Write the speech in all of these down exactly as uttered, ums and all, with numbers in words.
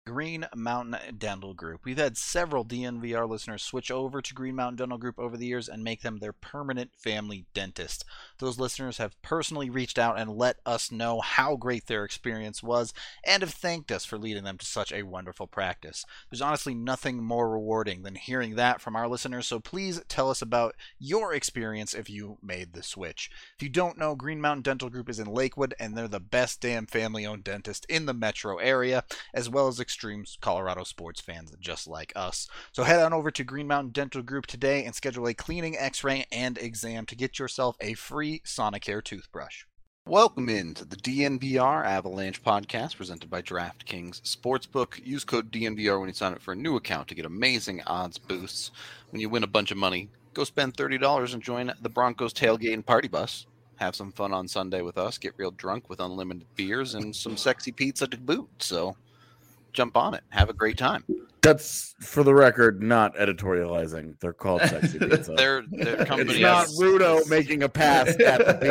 Green Mountain Dental Group. We've had several D N V R listeners switch over to Green Mountain Dental Group over the years and make them their permanent family dentist. Those listeners have personally reached out and let us know how great their experience was and have thanked us for leading them to such a wonderful practice. There's honestly nothing more rewarding than hearing that from our listeners, so please tell us about your experience if you made the switch. If you don't know, Green Mountain Dental Group is in Lakewood, and they're the best damn family-owned dentist in the metro area, as well as extreme Colorado sports fans just like us. So head on over to Green Mountain Dental Group today and schedule a cleaning, x-ray, and exam to get yourself a free Sonicare toothbrush. Welcome into the D N V R Avalanche podcast presented by DraftKings Sportsbook. Use code D N V R when you sign up for a new account to get amazing odds boosts. When you win a bunch of money, go spend thirty dollars and join the Broncos tailgate and party bus. Have some fun on Sunday with us. Get real drunk with unlimited beers and some sexy pizza to boot. So jump on it. Have a great time. That's, for the record, not editorializing. They're called sexy pizza. their, their company It's not has... Rudo making a pass at the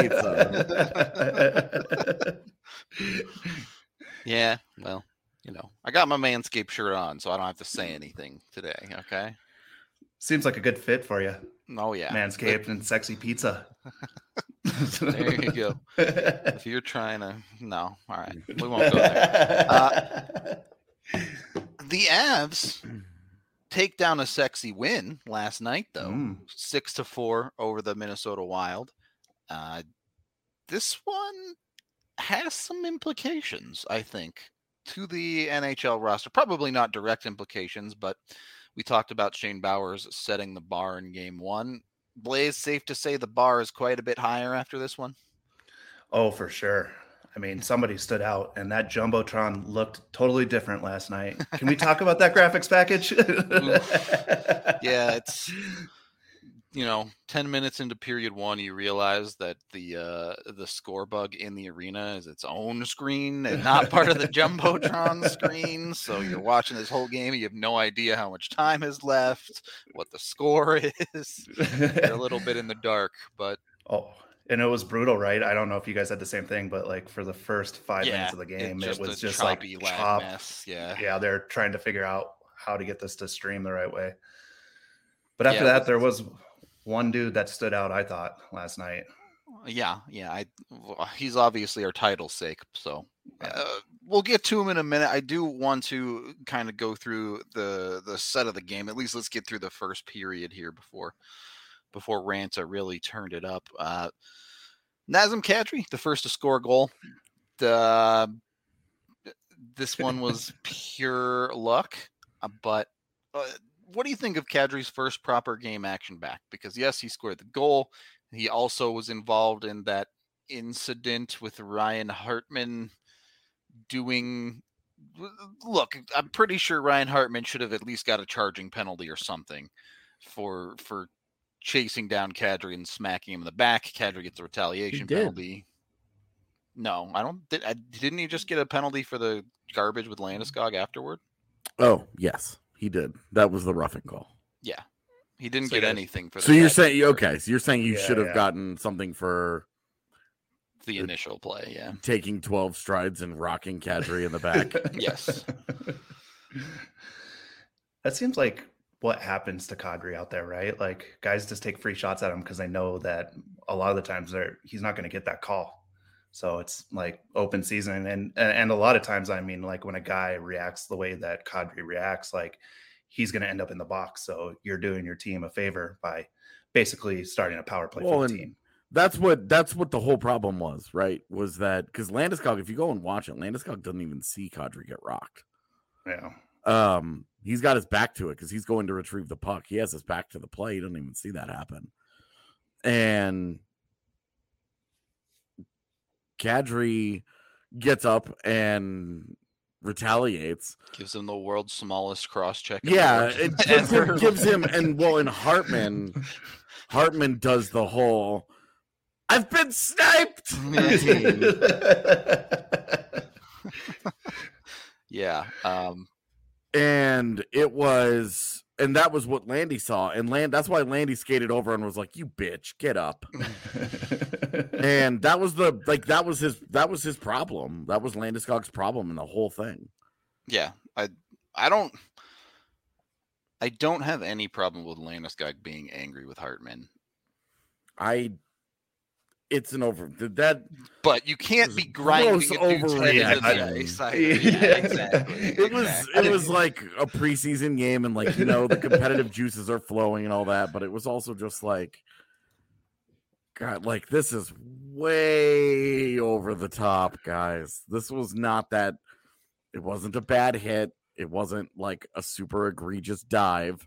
pizza. Yeah, well, you know, I got my Manscaped shirt on, so I don't have to say anything today, okay? Seems like a good fit for you. Oh, yeah. Manscaped and sexy pizza. There you go. If you're trying to... No, all right. We won't go there. Uh, the Avs take down a sexy win last night, though. Mm. Six to four over the Minnesota Wild. Uh, this one has some implications, I think, to the N H L roster. Probably not direct implications, but we talked about Shane Bowers setting the bar in game one. Blaze, safe to say the bar is quite a bit higher after this one? Oh, for sure. I mean, somebody stood out, and that Jumbotron looked totally different last night. Can we talk about that graphics package? Yeah, it's, you know, ten minutes into period one, you realize that the uh, the score bug in the arena is its own screen and not part of the Jumbotron screen. So you're watching this whole game, you have no idea how much time is left, what the score is. You're a little bit in the dark, but... Oh. And it was brutal, right? I don't know if you guys had the same thing, but like for the first five yeah, minutes of the game, it was just like chop. Mess. Yeah, yeah, they're trying to figure out how to get this to stream the right way. But after yeah, that, there was one dude that stood out, I thought, last night. Yeah, yeah, I he's obviously our title's sake, so uh, we'll get to him in a minute. I do want to kind of go through the the set of the game. At least let's get through the first period here before. before Ranta really turned it up. Uh, Nazem Kadri, the first to score a goal. The, this one was pure luck, uh, but uh, what do you think of Kadri's first proper game action back? Because yes, he scored the goal. He also was involved in that incident with Ryan Hartman doing... Look, I'm pretty sure Ryan Hartman should have at least got a charging penalty or something for for chasing down Kadri and smacking him in the back. Kadri gets a retaliation penalty. No, I don't. Did, I, didn't he just get a penalty for the garbage with Landeskog afterward? Oh, yes, he did. That was the roughing call. Yeah, he didn't so get yeah. anything for. So you're saying okay? So you're saying you yeah, should have yeah. gotten something for the initial play? Yeah, taking twelve strides and rocking Kadri in the back. Yes, that seems like what happens to Kadri out there, right? Like guys just take free shots at him because they know that a lot of the times they're he's not going to get that call. So it's like open season. And, and a lot of times, I mean, like when a guy reacts the way that Kadri reacts, like he's going to end up in the box. So you're doing your team a favor by basically starting a power play well, for the team. That's what, that's what the whole problem was, right? Was that because Landeskog, if you go and watch it, Landeskog doesn't even see Kadri get rocked. Yeah. Um, he's got his back to it because he's going to retrieve the puck. He has his back to the play. He doesn't even see that happen. And Kadri gets up and retaliates. Gives him the world's smallest cross check. Yeah, it gives him, gives him, and well, and Hartman, Hartman does the whole, I've been sniped. Yeah. Um, And it was, and that was what Landy saw. And Land, that's why Landy skated over and was like, "You bitch, get up." And that was the, like, that was his, that was his problem. That was Landeskog's problem in the whole thing. Yeah. I I don't I don't have any problem with Landeskog being angry with Hartman. I it's an over that but you can't be grinding a dude's head into the ice. Yeah, Yeah, exactly. It was exactly. it was like a preseason game, and like, you know, the competitive juices are flowing and all that, but it was also just like, God, like, this is way over the top, guys. This was not that. It wasn't a bad hit. It wasn't like a super egregious dive.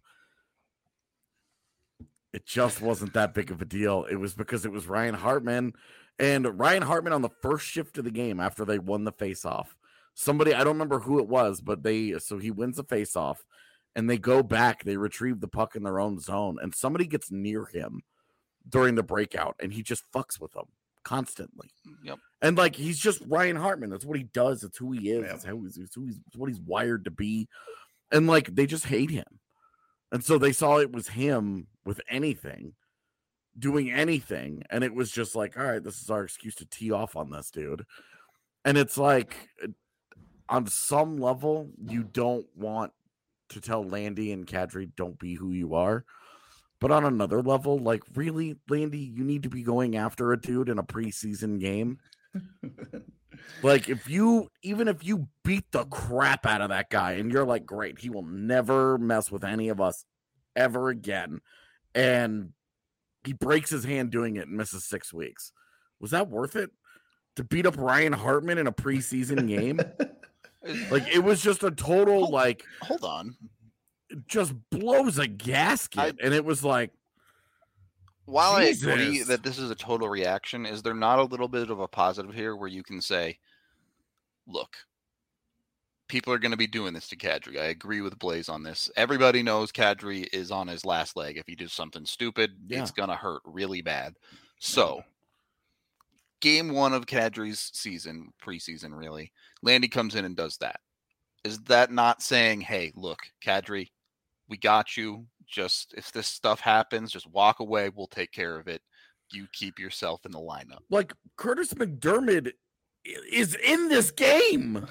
It just wasn't that big of a deal. It was because it was Ryan Hartman, and Ryan Hartman on the first shift of the game after they won the faceoff. Somebody, I don't remember who it was, but they, so he wins the faceoff, and they go back, they retrieve the puck in their own zone, and somebody gets near him during the breakout, and he just fucks with them constantly. Yep. And like, he's just Ryan Hartman. That's what he does. It's who he is. Yep. It's how he's, it's who he's, it's what he's wired to be. And like, they just hate him. And so they saw it was him with anything, doing anything. And it was just like, all right, this is our excuse to tee off on this dude. And it's like, on some level, you don't want to tell Landy and Kadri, don't be who you are. But on another level, like, really, Landy, you need to be going after a dude in a preseason game. Like, if you, even if you beat the crap out of that guy and you're like, great, he will never mess with any of us ever again, and he breaks his hand doing it and misses six weeks. Was that worth it? To beat up Ryan Hartman in a preseason game? Like, it was just a total, hold, like... Hold on. Just blows a gasket, I, and it was like, while Jesus. I agree that this is a total reaction, is there not a little bit of a positive here where you can say, look, people are going to be doing this to Kadri. I agree with Blaze on this. Everybody knows Kadri is on his last leg. If he does something stupid, yeah. it's going to hurt really bad. So, yeah. Game one of Kadri's season, preseason really, Landy comes in and does that. Is that not saying, hey, look, Kadri, we got you. Just if this stuff happens, just walk away. We'll take care of it. You keep yourself in the lineup. Like, Curtis McDermott is in this game.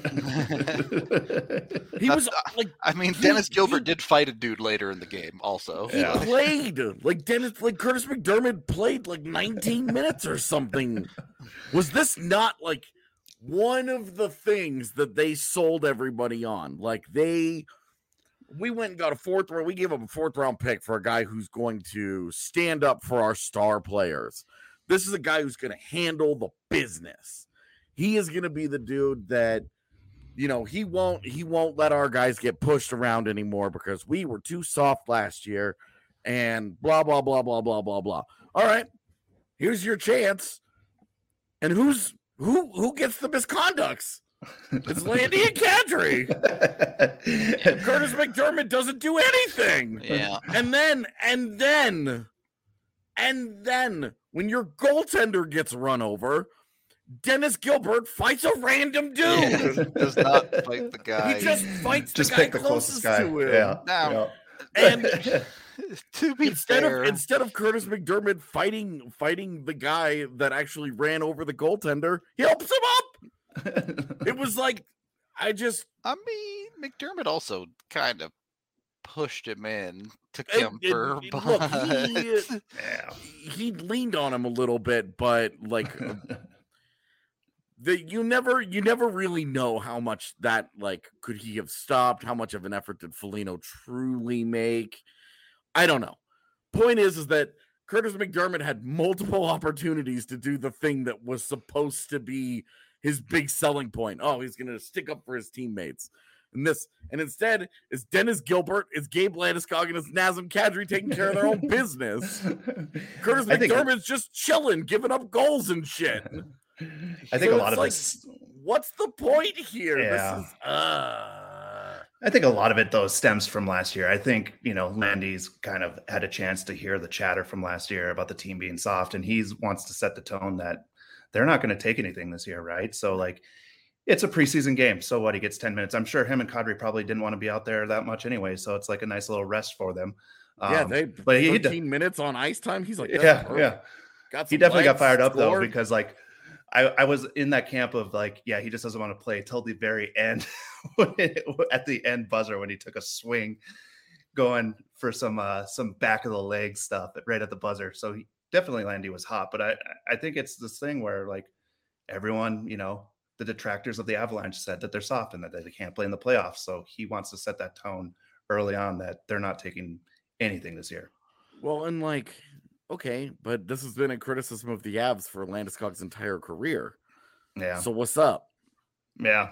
He was like, I mean, he, Dennis Gilbert he, did fight a dude later in the game also. He yeah. played like Dennis, like Curtis McDermott played like nineteen minutes or something. Was this not like one of the things that they sold everybody on? Like, they, we went and got a fourth round. We gave up a fourth round pick for a guy who's going to stand up for our star players. This is a guy who's going to handle the business. He is going to be the dude that, you know, he won't, he won't let our guys get pushed around anymore because we were too soft last year and blah, blah, blah, blah, blah, blah, blah. All right, here's your chance. And who's, Who who gets the misconducts? It's Landy and Kadri. Curtis McDermott doesn't do anything. Yeah. And then, and then, and then, when your goaltender gets run over, Dennis Gilbert fights a random dude. Yeah, does not fight the guy. He just fights just the guy pick the closest, closest guy. to him. Yeah. Now, yeah. and to be instead fair, of instead of Curtis McDermott fighting fighting the guy that actually ran over the goaltender, he helps him up. It was like, I just, I mean, McDermott also kind of pushed him in, took him it, for it, look, he, yeah. he leaned on him a little bit, but like, the you never you never really know how much that, like, could he have stopped? How much of an effort did Foligno truly make? I don't know. Point is, is that Curtis McDermott had multiple opportunities to do the thing that was supposed to be his big selling point. Oh, he's going to stick up for his teammates. And this, and instead, it's Dennis Gilbert, it's Gabe Landeskog, and it's Nazem Kadri taking care of their own business. Curtis McDermott's just chilling, giving up goals and shit. I think so a lot of like, this. What's the point here? Yeah. This is, uh... I think a lot of it, though, stems from last year. I think, you know, Landy's kind of had a chance to hear the chatter from last year about the team being soft, and he wants to set the tone that they're not going to take anything this year, right? So, like, it's a preseason game. So what? He gets ten minutes. I'm sure him and Kadri probably didn't want to be out there that much anyway. So it's like a nice little rest for them. Um, yeah, they but he thirteen minutes on ice time. He's like, yeah, perfect. yeah. Got he definitely legs, got fired up scored. though, because like I, I was in that camp of like, yeah, he just doesn't want to play till the very end, at the end buzzer when he took a swing, going for some uh, some back of the leg stuff right at the buzzer. So he, definitely Landy was hot, but I I think it's this thing where like everyone, you know, the detractors of the Avalanche said that they're soft and that they can't play in the playoffs. So he wants to set that tone early on that they're not taking anything this year. Well, and like, okay, but this has been a criticism of the Avs for Landeskog's entire career. Yeah. So what's up? Yeah.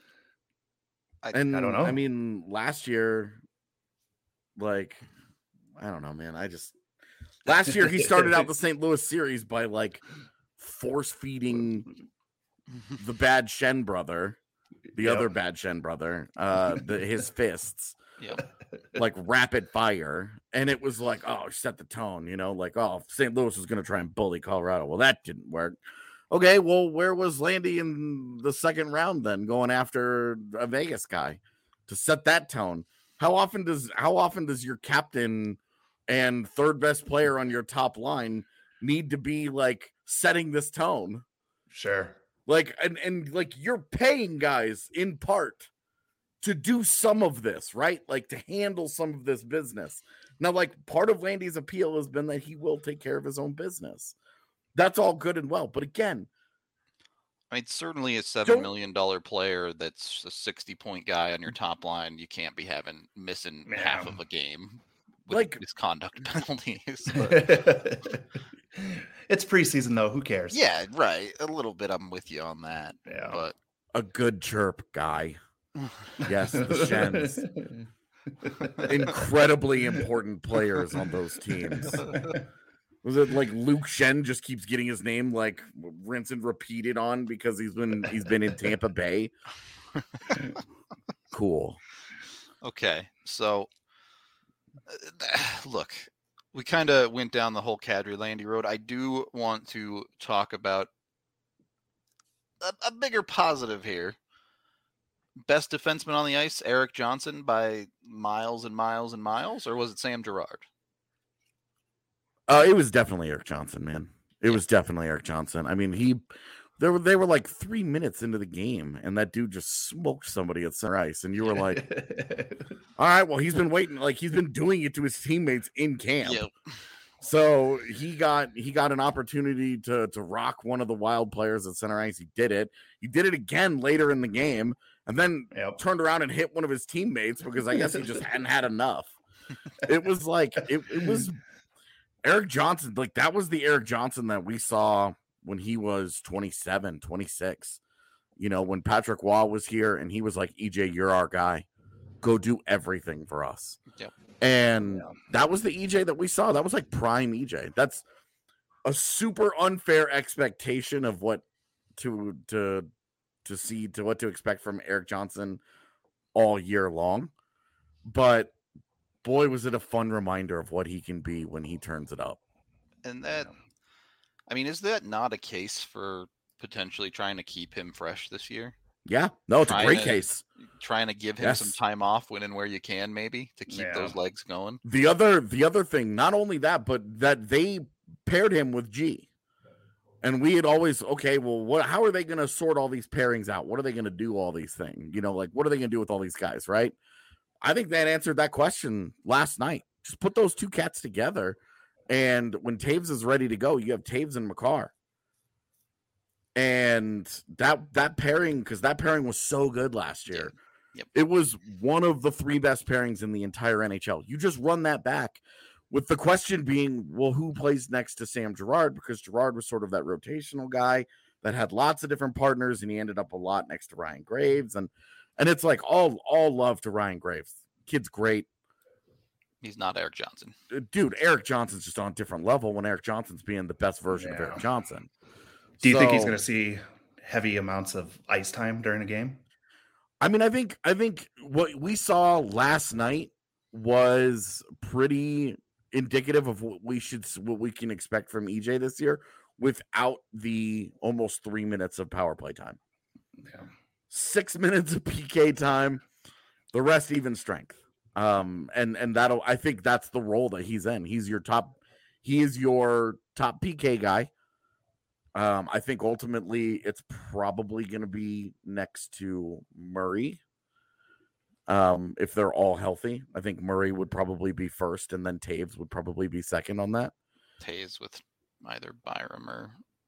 I, And I don't know. I mean, last year, like, I don't know, man. I just last year he started out the Saint Louis series by like force feeding the bad Shen brother, the Yep. other bad Shen brother, uh, the, his fists, yep. like rapid fire, and it was like, oh, set the tone, you know, like, oh, Saint Louis was going to try and bully Colorado. Well, that didn't work. Okay, well, where was Landy in the second round then, going after a Vegas guy to set that tone? How often does how often does your captain and third best player on your top line need to be like setting this tone? Sure. Like, and, and like you're paying guys in part to do some of this, right? Like to handle some of this business. Now, like part of Landy's appeal has been that he will take care of his own business. That's all good and well. But again, I mean, certainly a seven Don't- million dollar player that's a sixty point guy on your top line, you can't be having missing half Yeah. of a game with Like- misconduct penalties. But It's preseason though. Who cares? yeah, right. A little bit. I'm with you on that. Yeah. But a good chirp guy. Yes, the Shens. Incredibly important players on those teams. Was it like Luke Shen just keeps getting his name like rinse and repeated on because he's been he's been in Tampa Bay? Cool. okay, so uh, look, we kind of went down the whole Kadri Landy road. I do want to talk about a, a bigger positive here. Best defenseman on the ice, Eric Johnson, by miles and miles and miles, or was it Sam Girard? Uh, it was definitely Eric Johnson, man. It was definitely Eric Johnson. I mean, he there were they were like three minutes into the game, and that dude just smoked somebody at center ice, and you were like, all right, well, he's been waiting, like he's been doing it to his teammates in camp. Yep. So he got he got an opportunity to to rock one of the Wild players at center ice. He did it. He did it again later in the game, and then Yep. turned around and hit one of his teammates because I guess he just hadn't had enough. It was like it, it was Eric Johnson. Like that was the Eric Johnson that we saw when he was twenty-seven, twenty-six. You know, when Patrick Waugh was here and he was like, E J, you're our guy. Go do everything for us. Yep. And Yeah. that was the E J that we saw. That was like prime E J. That's a super unfair expectation of what to to to see to what to expect from Eric Johnson all year long. But boy, was it a fun reminder of what he can be when he turns it up. And that, I mean, is that not a case for potentially trying to keep him fresh this year? Yeah, no, it's a Trying great to- case. Trying to give him some Yes. time off when and where you can, maybe to keep Yeah. those legs going. The other the other thing, not only that, but that they paired him with G. And we had always, okay, well, what how are they going to sort all these pairings out? What are they going to do all these things? You know, like what are they going to do with all these guys, right? I think that answered that question last night. Just put those two cats together, and when Taves is ready to go, you have Taves and McCarr. And that that pairing, because that pairing was so good last year. Yep. It was one of the three best pairings in the entire N H L. You just run that back, with the question being, well, who plays next to Sam Girard? Because Girard was sort of that rotational guy that had lots of different partners, and he ended up a lot next to Ryan Graves. And and it's like all all love to Ryan Graves. Kid's great. He's not Eric Johnson. Uh, Dude, Eric Johnson's just on a different level when Eric Johnson's being the best version of Yeah. Eric Johnson. Do you think he's So- going to see heavy amounts of ice time during a game? I mean, I think I think what we saw last night was pretty indicative of what we should what we can expect from E J this year without the almost three minutes of power play time. Yeah. Six minutes of P K time, the rest even strength. Um, and and that'll I think that's the role that he's in. He's your top, he is your top P K guy. Um, I think ultimately it's probably going to be next to Murray. Um, if they're all healthy, I think Murray would probably be first, and then Taves would probably be second on that. Taves with either Byram or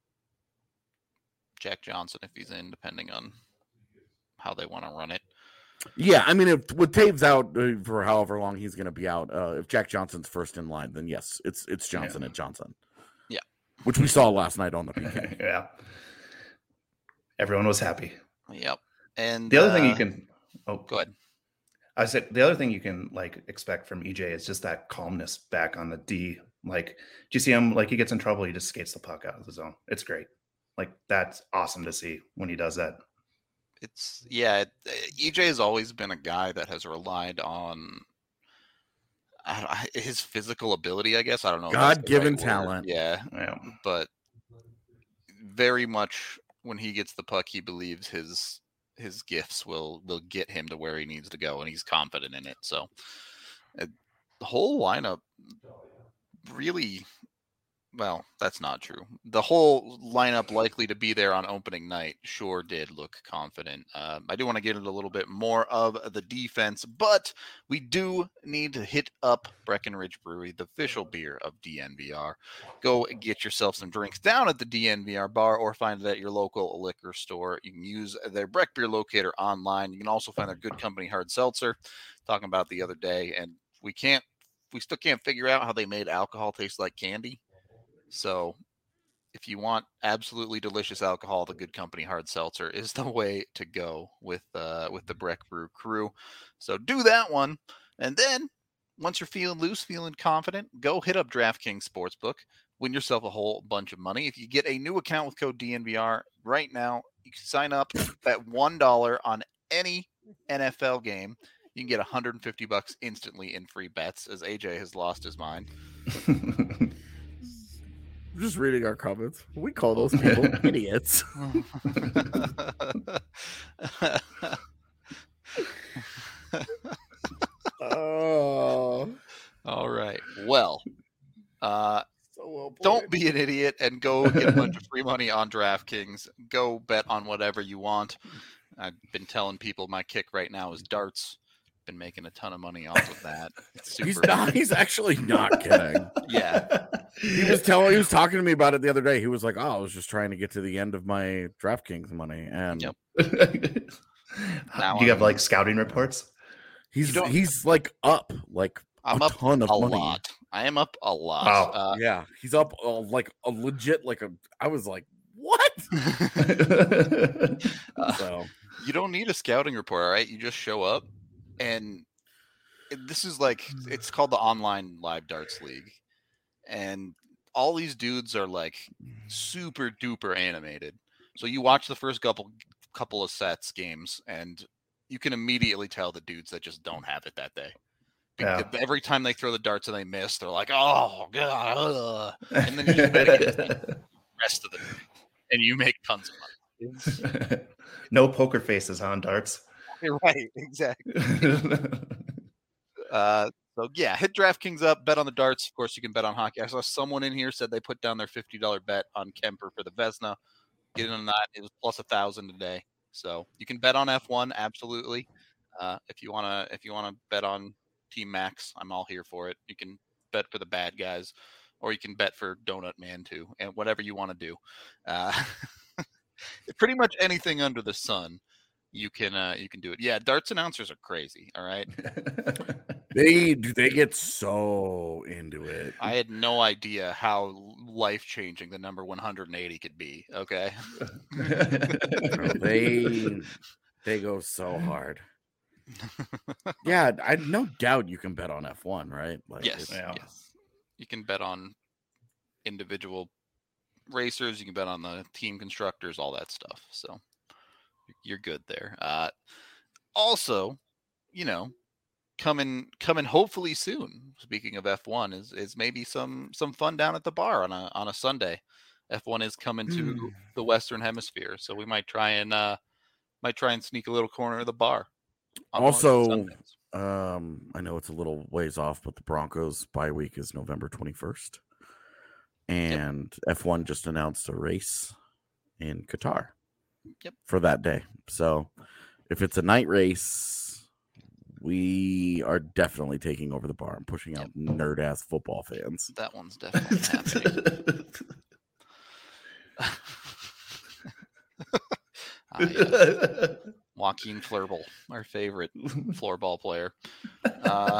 Jack Johnson if he's in, depending on how they want to run it. Yeah, I mean, if with Taves out uh, for however long he's going to be out, uh, if Jack Johnson's first in line, then yes, it's it's Johnson Yeah. at Johnson. Yeah, which we saw last night on the P K. Yeah, everyone was happy. Yep. And The other uh, thing you can, oh, go ahead. I said the other thing you can like expect from E J is just that calmness back on the D. Like, do you see him? Like, he gets in trouble, he just skates the puck out of the zone. It's great. Like, that's awesome to see when he does that. It's yeah. It, E J has always been a guy that has relied on I don't, I- his physical ability. I guess I don't know. if that's the God-given right word. talent. Yeah, Yeah. but very much when he gets the puck, he believes his his gifts will will get him to where he needs to go, and he's confident in it. So uh, the whole lineup really, well, that's not true. The whole lineup likely to be there on opening night sure did look confident. Um, I do want to get into a little bit more of the defense, but we do need to hit up Breckenridge Brewery, the official beer of D N V R. Go get yourself some drinks down at the D N V R bar or find it at your local liquor store. You can use their Breck Beer Locator online. You can also find their Good Company Hard Seltzer, talking about the other day, and we can't, we still can't figure out how they made alcohol taste like candy. So if you want absolutely delicious alcohol, the Good Company Hard Seltzer is the way to go with uh, with the Breck Brew crew. So do that one. And then once you're feeling loose, feeling confident, go hit up DraftKings Sportsbook. Win yourself a whole bunch of money. If you get a new account with code D N V R right now, you can sign up at one dollar on any N F L game. You can get one hundred fifty bucks instantly in free bets, as A J has lost his mind. Just reading our comments. We call those people idiots. Oh, All right. Well, uh, so well played. don't be an idiot and go get a bunch of free money on DraftKings. Go bet on whatever you want. I've been telling people my kick right now is darts. Been making a ton of money off of that. It's super. He's not. He's actually not kidding. Yeah. He was telling. He was talking to me about it the other day. He was like, "Oh, I was just trying to get to the end of my DraftKings money." And Yep. Do you have like scouting reports? he's You don't- he's like up like I'm a up ton of a money. lot. I am up a lot. Wow. Uh, Yeah, he's up uh, like a legit like a. I was like, what? uh, So you don't need a scouting report, all right? You just show up, and it- this is like it's called the Online Live Darts League, and all these dudes are like super duper animated. So you watch the first couple couple of sets games, and you can immediately tell the dudes that just don't have it that day. Yeah. Because every time they throw the darts and they miss, they're like, "Oh god!" ugh." And then you just bet against them the rest of the day, and you make tons of money. It's- No poker faces on darts. You're right, exactly. Uh, so yeah, hit DraftKings up, bet on the darts. Of course, you can bet on hockey. I saw someone in here said they put down their fifty dollar bet on Kemper for the Vesna. Get in on that. It was plus a thousand today. So you can bet on F one, absolutely. Uh, if you wanna, if you wanna bet on Team Max, I'm all here for it. You can bet for the bad guys, or you can bet for Donut Man too, and whatever you want to do. Uh, pretty much anything under the sun, you can uh, you can do it. Yeah, darts announcers are crazy. All right. they they get so into it. I had no idea how life changing the number one hundred eighty could be. Okay. Bro, they they go so hard. Yeah, I no doubt you can bet on F one, right? Like Yes. it's- Yeah. Yes. You can bet on individual racers. You can bet on the team constructors, all that stuff. So you're good there. Uh, also, you know, coming coming hopefully soon. Speaking of F one, is is maybe some some fun down at the bar on a on a Sunday. F one is coming to Mm. the Western Hemisphere, so we might try and uh might try and sneak a little corner of the bar. on one of those Also, Sundays. Um, I know it's a little ways off, but the Broncos bye week is November twenty-first. And F one just announced a race in Qatar. Yep. For that day. So if it's a night race, we are definitely taking over the bar and pushing out yep. nerd ass football fans. That one's definitely happening. ah, yes. Joaquin Fleurbel, our favorite floorball player. Uh,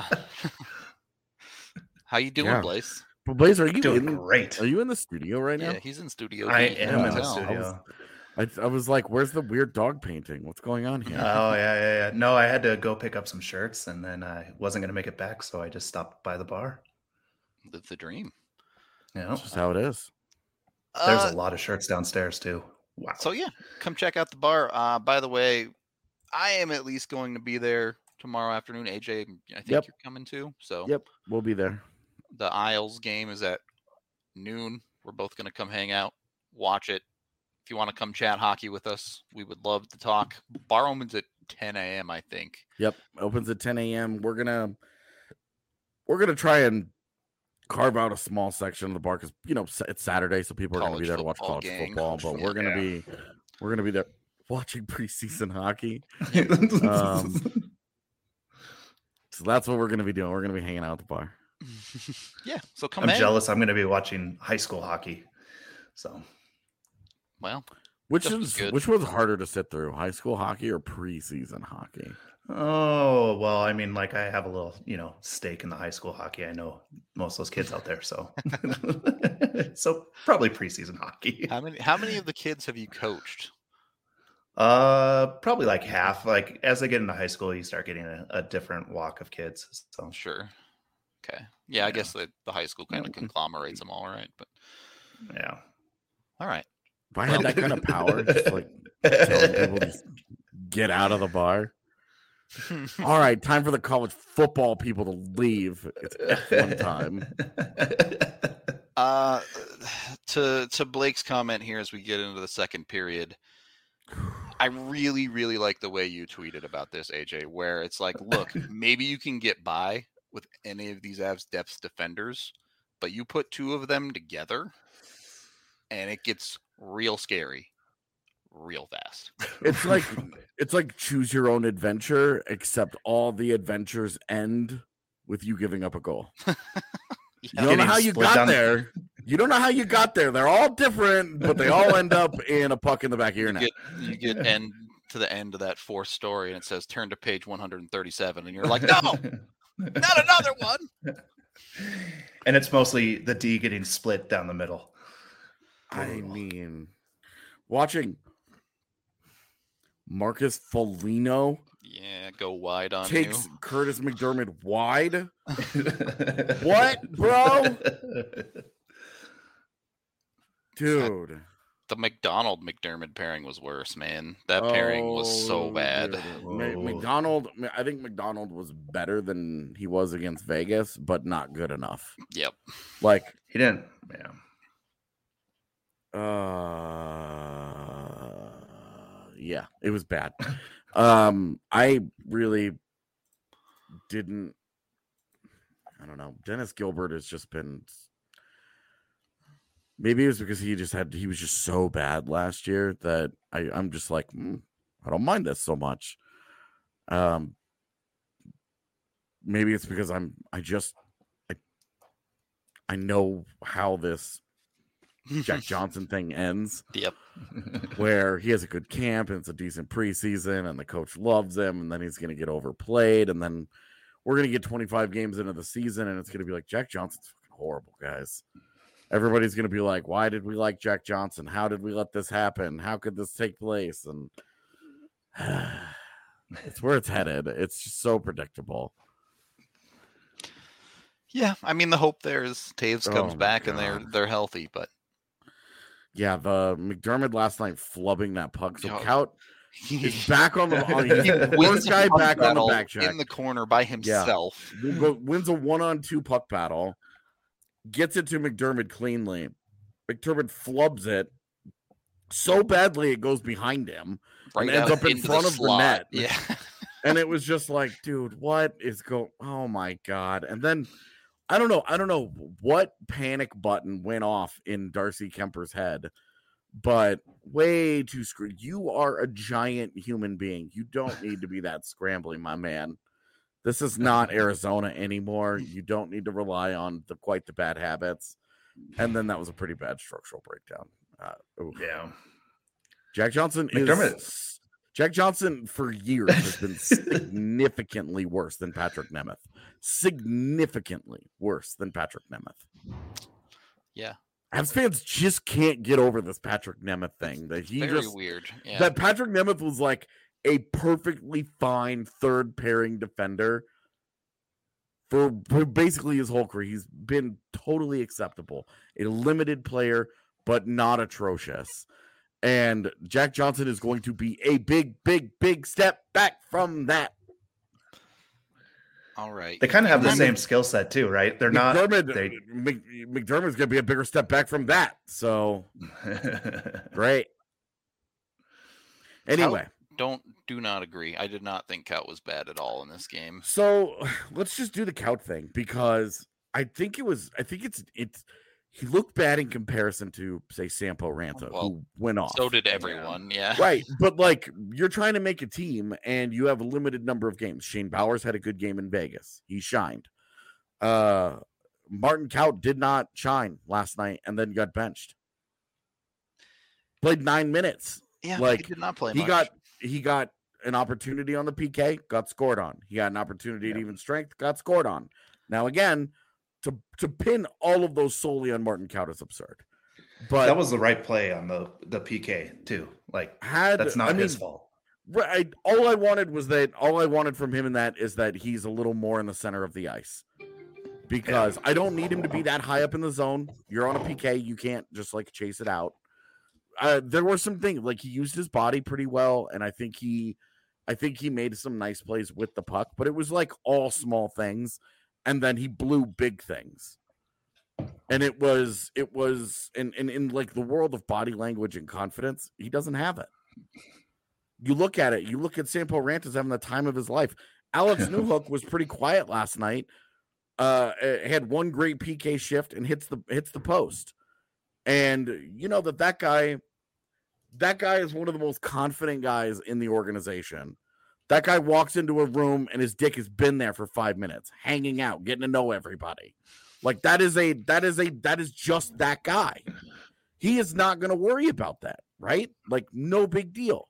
how you doing, yeah. Blaze? Well, Blaze, are you doing in, great? Are you in the studio right now? Yeah, he's in studio. I D. am yeah, in the I studio. Was, I, I was like, "Where's the weird dog painting? What's going on here?" Oh yeah, yeah, yeah. No, I had to go pick up some shirts, and then I wasn't going to make it back, so I just stopped by the bar. Live the dream. Yeah, that's just how it is. There's uh, a lot of shirts downstairs too. Wow. So yeah, come check out the bar. Uh, by the way, I am at least going to be there tomorrow afternoon. A J, I think yep. you're coming too. So yep, we'll be there. The Isles game is at noon. We're both going to come hang out, watch it. If you want to come chat hockey with us, we would love to talk. Bar opens at ten a.m. I think. Yep, opens at ten a.m. We're gonna we're gonna try and carve out a small section of the bar because you know it's Saturday, so people are going to be there to watch college gang. football. But we're going to yeah. be we're going to be there watching preseason hockey. um, so that's what we're going to be doing. We're going to be hanging out at the bar. Yeah, so come. I'm in. jealous. I'm going to be watching high school hockey. So, well, which is which was harder to sit through, high school hockey or preseason hockey? Oh, well, I mean, like I have a little, you know, stake in the high school hockey. I know most of those kids out there, so so probably preseason hockey. How many how many of the kids have you coached? Uh, probably like half. Like as they get into high school, you start getting a, a different walk of kids. So sure. Okay. Yeah, I yeah. guess the, the high school kind of conglomerates them all, right? But yeah. All right. If I had that kind of power, just like telling people to get out of the bar. All right, time for the college football people to leave. It's F one time. Uh, to to Blake's comment here as we get into the second period, I really, really like the way you tweeted about this, A J, where it's like, look, maybe you can get by with any of these Avs depth defenders, but you put two of them together, and it gets real scary. Real fast. It's like it's like choose your own adventure, except all the adventures end with you giving up a goal. Yeah. You don't know how you got there. You don't know how you got there. They're all different, but they all end up in a puck in the back of your you net. Get, you get end to the end of that fourth story, and it says turn to page one hundred thirty-seven, and you're like, no, not another one. And it's mostly the D getting split down the middle. I mean, watching Marcus Foligno, yeah, go wide on takes you. Curtis McDermott wide. What, bro? Dude, the McDonald McDermott pairing was worse, man. That pairing oh, was so bad. Dude. McDonald, I think McDonald was better than he was against Vegas, but not good enough. Yep, like he didn't. Yeah. Uh. Yeah, it was bad. um, I really didn't. I don't know. Dennis Gilbert has just been. Maybe it was because he just had. He was just so bad last year that I, I'm just like, mm, I don't mind this so much. Um, maybe it's because I'm. I just. I. I know how this Jack Johnson thing ends. Yep. Where he has a good camp and it's a decent preseason and the coach loves him, and then he's going to get overplayed, and then we're going to get twenty-five games into the season and it's going to be like, Jack Johnson's fucking horrible, guys. Everybody's going to be like, why did we like Jack Johnson? How did we let this happen? How could this take place? And it's where it's headed. It's just so predictable. Yeah, I mean, the hope there is Taves comes oh back God. and they're they're healthy, but yeah, the McDermott last night flubbing that puck. So Yo, Kaut is back on the on, he first guy back on the back check in the corner by himself. Yeah. Wins a one-on-two puck battle, gets it to McDermott cleanly. McDermott flubs it so badly it goes behind him right and ends up in front the of slot. the net. Yeah, and it was just like, dude, what is going? Oh my God! And then. I don't know. I don't know what panic button went off in Darcy Kemper's head, but way too screwed. You are a giant human being. You don't need to be that scrambling, my man. This is not Arizona anymore. You don't need to rely on the quite the bad habits. And then that was a pretty bad structural breakdown. Uh, oof. Yeah. Jack Johnson McDermott. is Jack Johnson for years has been significantly worse than Patrick Nemeth. Significantly worse than Patrick Nemeth. Yeah. Avs fans just can't get over this Patrick Nemeth thing. That he Very just weird. Yeah. that Patrick Nemeth was like a perfectly fine third pairing defender for, for basically his whole career. He's been totally acceptable, a limited player, but not atrocious. And Jack Johnson is going to be a big, big, big step back from that. All right. They kind of have the McDermott- same skill set too, right? They're not. McDermott, They, Mc, McDermott's going to be a bigger step back from that. So great. Anyway, Don't do not agree. I did not think Kaut was bad at all in this game. so let's just do the count thing because I think it was. I think it's it's. He looked bad in comparison to say Sampo Ranta, Well, who went off. So did everyone. Yeah. Right, but like you're trying to make a team and you have a limited number of games. Shane Bowers had a good game in Vegas. He shined. Uh Martin Kaut did not shine last night and then got benched. Played nine minutes. Yeah. Like, he did not play He much. got he got an opportunity on the P K, got scored on. He got an opportunity at Yeah. even strength, got scored on. Now again, to to pin all of those solely on Martin Kaut is absurd. But that was the right play on the the P K too. Like had that's not I mean, his fault. Right. All I wanted was that all I wanted from him in that is that he's a little more in the center of the ice. Because I don't need him to be that high up in the zone. You're on a P K, you can't just like chase it out. Uh, there were some things like he used his body pretty well, and I think he I think he made some nice plays with the puck, but it was like all small things, and then he blew big things. And it was it was in, in, in like the world of body language and confidence, he doesn't have it. You look at it, you look at Sampo Ranta's having the time of his life. Alex Newhook was pretty quiet last night. Uh, had one great P K shift and hits the hits the post. And you know that that guy, that guy is one of the most confident guys in the organization. That guy walks into a room and his dick has been there for five minutes, hanging out, getting to know everybody. Like that is a that is a that is just that guy. He is not going to worry about that, right? Like no big deal.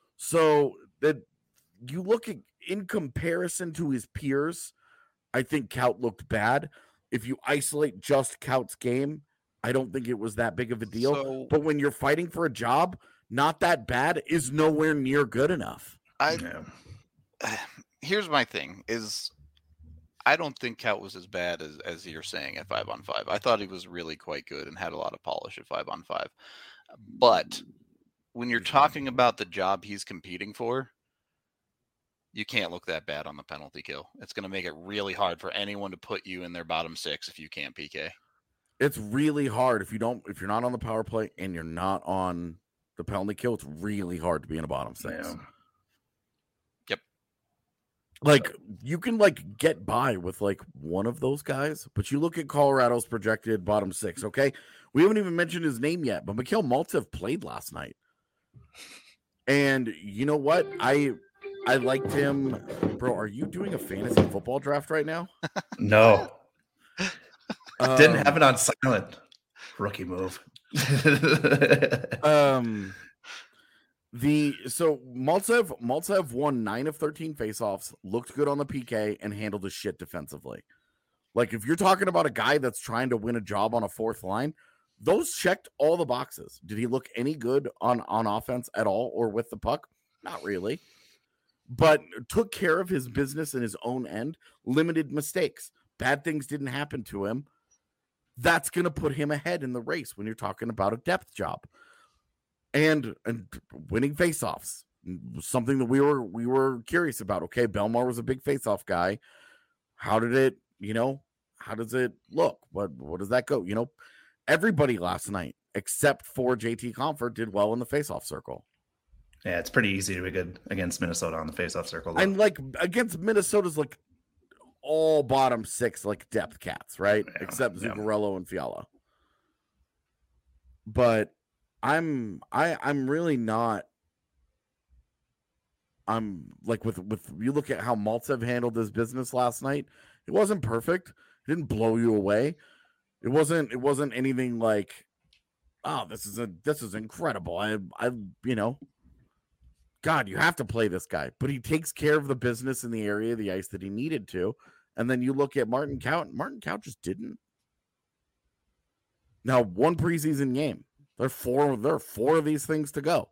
So that you look at in comparison to his peers, I think Kaut looked bad. If you isolate just Kaut's game, I don't think it was that big of a deal. So- but when you're fighting for a job, not that bad is nowhere near good enough. I Yeah. here's my thing is I don't think Kaut was as bad as, as you're saying at five on five. I thought he was really quite good and had a lot of polish at five on five. But when you're talking about the job he's competing for, you can't look that bad on the penalty kill. It's going to make it really hard for anyone to put you in their bottom six if you can't P K. It's really hard if you don't if you're not on the power play and you're not on the penalty kill. It's really hard to be in a bottom six. Yeah. Yep. Like you can like get by with like one of those guys, but you look at Colorado's projected bottom six. Okay, we haven't even mentioned his name yet, but Mikhail Maltsev played last night, and you know what? I I liked him, bro. Are you doing a fantasy football draft right now? No, didn't Um, have it on silent. Rookie move. Um, the so Maltsev Maltsev won nine of thirteen faceoffs, looked good on the P K, and handled his shit defensively. Like if you're talking about a guy that's trying to win a job on a fourth line, those checked all the boxes. Did he look any good on on offense at all or with the puck? Not really. But took care of his business in his own end, limited mistakes. Bad things didn't happen to him. That's going to put him ahead in the race when you're talking about a depth job. And, and winning faceoffs, something that we were we were curious about. Okay, Belmar was a big faceoff guy. How did it, you know, how does it look? What what does that go? You know, everybody last night except for J T Comfort did well in the faceoff circle. Yeah, it's pretty easy to be good against Minnesota on the faceoff circle. though. And like against Minnesota's like all bottom six like depth cats, right? Yeah, Except yeah. Zuccarello and Fiala. But I'm I I'm really not. I'm like with with you look at how Maltsev handled his business last night. It wasn't perfect. It didn't blow you away. It wasn't it wasn't anything like, oh, this is a this is incredible. I I you know, God, you have to play this guy. But he takes care of the business in the area of the ice that he needed to. And then you look at Martin Kaut. Martin Kaut just didn't. Now, one preseason game. There are four, there are four of these things to go.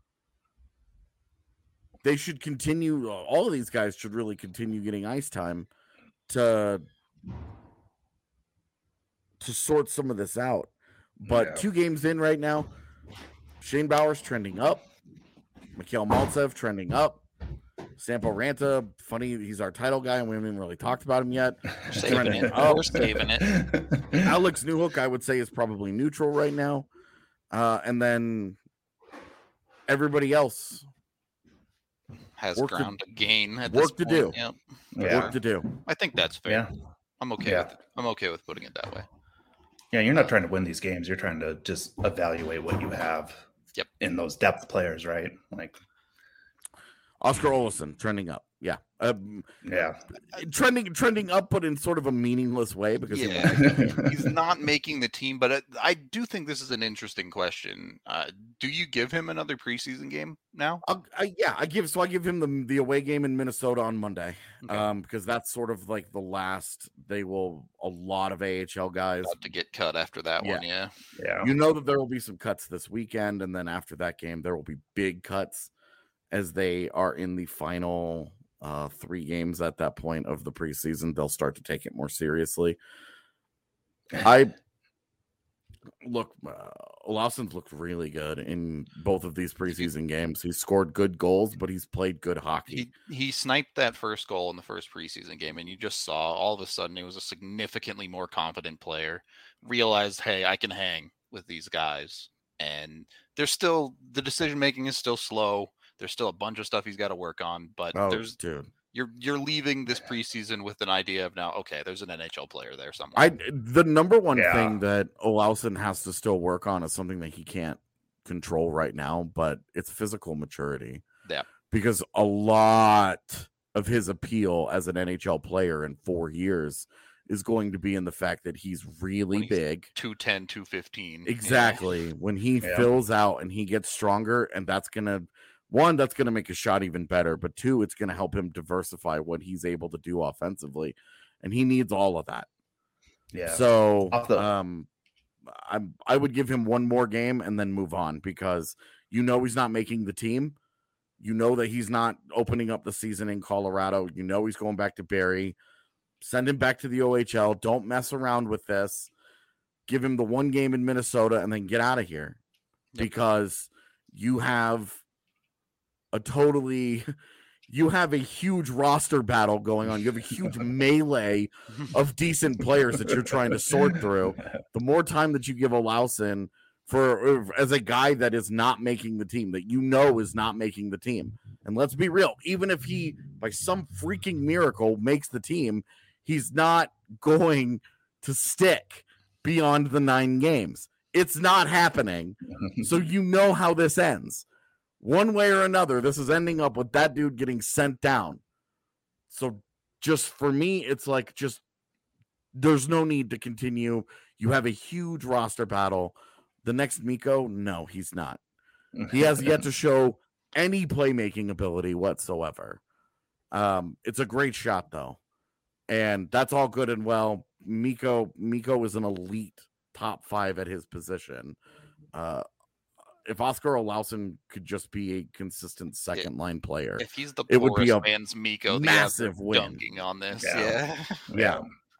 They should continue. All of these guys should really continue getting ice time to to sort some of this out. But Yeah. two games in right now, Shane Bowers trending up, Mikhail Maltsev trending up, Sampo Ranta, funny, he's our title guy, and we haven't even really talked about him yet. Saving Trending it. up. We're saving it. Alex Newhook, I would say, is probably neutral right now. Uh, and then everybody else Has Work to- ground to, gain. At work this to do. point. Yep. Yeah. work to do. I think that's fair. Yeah. I'm okay Yeah. with I'm okay with putting it that way. Yeah, you're not trying to win these games. You're trying to just evaluate what you have Yep. in those depth players, right? Like, Oscar Olsen trending up. Yeah. Um, yeah. trending trending up, but in sort of a meaningless way because he Yeah. won. He's not making the team, but it, I do think this is an interesting question. Uh, do you give him another preseason game now? I'll, I, yeah, I give so I give him the the away game in Minnesota on Monday, Okay. um, because that's sort of like the last. They will a lot of A H L guys. About to get cut after that Yeah. one, yeah. Yeah. You know that there will be some cuts this weekend, and then after that game, there will be big cuts as they are in the final uh, three games at that point of the preseason. They'll start to take it more seriously. I look, uh, Olausen's looked really good in both of these preseason games. He's scored good goals, but he's played good hockey. He he sniped that first goal in the first preseason game, and you just saw all of a sudden he was a significantly more confident player. Realized, hey, I can hang with these guys, and there's still the decision making is still slow. There's still a bunch of stuff he's got to work on, but Oh, there's dude. you're you're leaving this preseason with an idea of now, okay, there's an N H L player there somewhere. I the number one Yeah. thing that Olausen has to still work on is something that he can't control right now, but it's physical maturity. Yeah. Because a lot of his appeal as an N H L player in four years is going to be in the fact that he's really When he's big. two ten, two fifteen. Exactly. When he Yeah. fills out and he gets stronger, and that's gonna one, that's gonna make his shot even better, but two, it's gonna help him diversify what he's able to do offensively. And he needs all of that. Yeah. So Off the- um I I would give him one more game and then move on, because you know he's not making the team. You know that he's not opening up the season in Colorado. You know he's going back to Barrie. Send him back to the O H L. Don't mess around with this. Give him the one game in Minnesota and then get out of here. Yep. Because you have a totally you have a huge roster battle going on. You have a huge melee of decent players that you're trying to sort through. The more time that you give Olausen for as a guy that is not making the team, that you know is not making the team. And let's be real, even if he by some freaking miracle makes the team, he's not going to stick beyond the nine games. It's not happening. So you know how this ends. One way or another, this is ending up with that dude getting sent down. So just for me, it's like just there's no need to continue. You have a huge roster battle. The next Mikko, no, he's not. He has yet to show any playmaking ability whatsoever. Um, it's a great shot, though. And that's all good and well. Mikko, Mikko is an elite top five at his position. Uh, if Oscar Olausen could just be a consistent second line player, If he's the It would be poorest a man's Miko, the massive odds are win. dunking on this. Yeah. Yeah. yeah.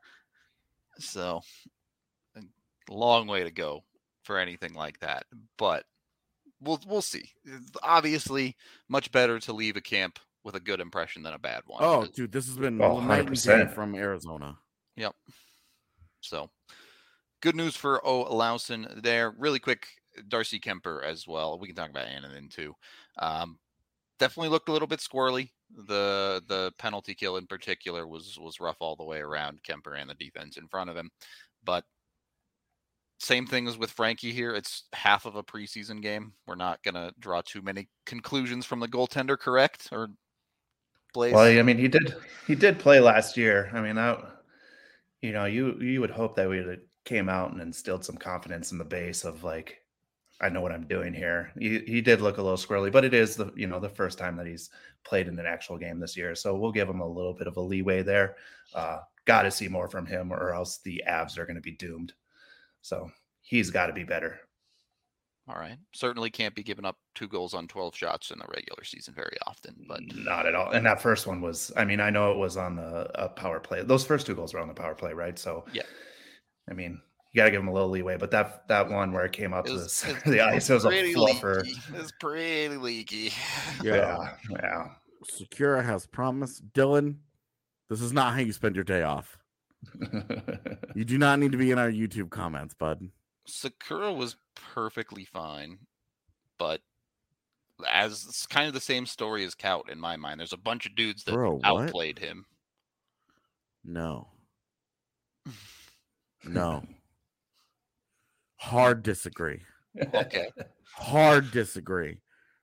So, a long way to go for anything like that, but we'll we'll see. Obviously, much better to leave a camp with a good impression than a bad one. Oh, dude, this has been Oh, night and day one hundred percent. from Arizona. Yep. So, good news for O. Olausen there. Really quick, Darcy Kemper as well. We can talk about Annanen too. Um, definitely looked a little bit squirrely. The the penalty kill in particular was was rough all the way around Kemper and the defense in front of him, but same thing as with Frankie here. It's half of a preseason game. We're not going to draw too many conclusions from the goaltender, correct? Or Blaze? Well, I mean, he did he did play last year. I mean, that you know, you you would hope that we would came out and instilled some confidence in the base of like, I know what I'm doing here. He he did look a little squirrely, but it is the you know the first time that he's played in an actual game this year, so we'll give him a little bit of a leeway there. Uh, got to see more from him, or else the Avs are going to be doomed. So he's got to be better. All right. Certainly can't be giving up two goals on twelve shots in the regular season very often, but not at all. And that first one was, I mean, I know it was on the a power play. Those first two goals were on the power play, right? So yeah, I mean, you got to give him a little leeway. But that that one where it came out to was, the, the ice, it was a fluffer. Leaky. It was pretty leaky. Yeah, yeah. Sakura has promised. Dylan, this is not how you spend your day off. You do not need to be in our YouTube comments, bud. Sakura was perfectly fine, but as it's kind of the same story as Kaut in my mind. There's a bunch of dudes that Bro, outplayed him. No. No. Hard disagree. Okay. Hard disagree.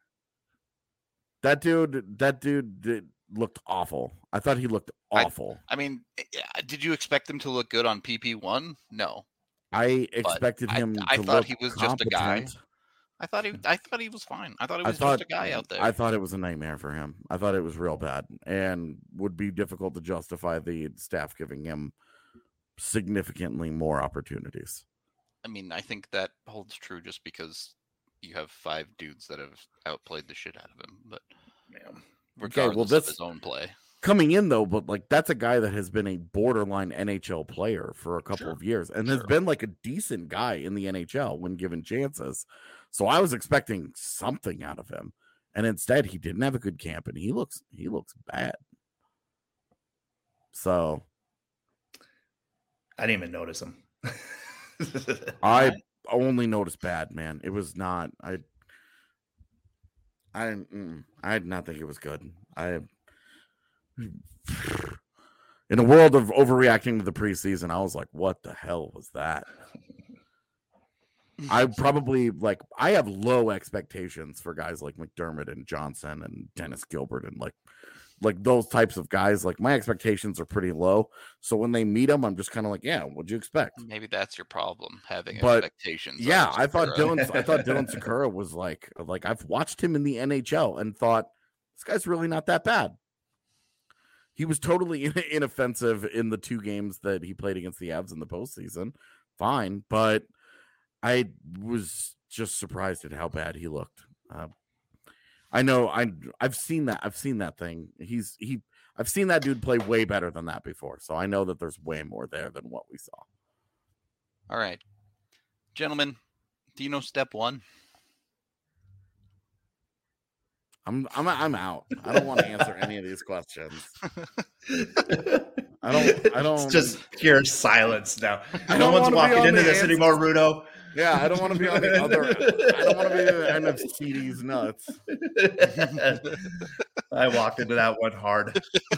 That dude, that dude did, looked awful. I thought he looked awful. I, I mean, did you expect him to look good on P P one? No. I expected but him I, I to thought look he was competent. just a guy. I thought he I thought he was fine. I thought he was thought, just a guy out there. I thought it was a nightmare for him. I thought it was real bad and would be difficult to justify the staff giving him significantly more opportunities. I mean, I think that holds true just because you have five dudes that have outplayed the shit out of him, but yeah, regardless okay, well, this, of his own play. Coming in though, but like that's a guy that has been a borderline N H L player for a couple sure. of years and sure. has been like a decent guy in the N H L when given chances. So I was expecting something out of him. And instead he didn't have a good camp and he looks he looks bad. So I didn't even notice him. I only noticed bad, man. It was not I I didn't I did not think it was good. I In a world of overreacting to the preseason, I was like, what the hell was that? I probably like I have low expectations for guys like McDermott and Johnson and Dennis Gilbert and like like those types of guys. Like my expectations are pretty low. So when they meet them, I'm just kind of like, yeah, what'd you expect? Maybe that's your problem, having but, expectations. Yeah, I thought Dylan I thought Dylan Sakura was like like I've watched him in the N H L and thought this guy's really not that bad. He was totally inoffensive in the two games that he played against the Avs in the postseason. Fine, but I was just surprised at how bad he looked. Uh, I know I I've seen that I've seen that thing. He's he I've seen that dude play way better than that before. So I know that there's way more there than what we saw. All right, gentlemen, do you know step one? I'm I'm I'm out. I don't want to answer any of these questions. I don't I don't It's just pure silence now. I No don't one's wanna be walking on into the this answers. anymore, Rudo. Yeah, I don't want to be on the other I don't want to be in the end of C D's nuts. I walked into that one hard.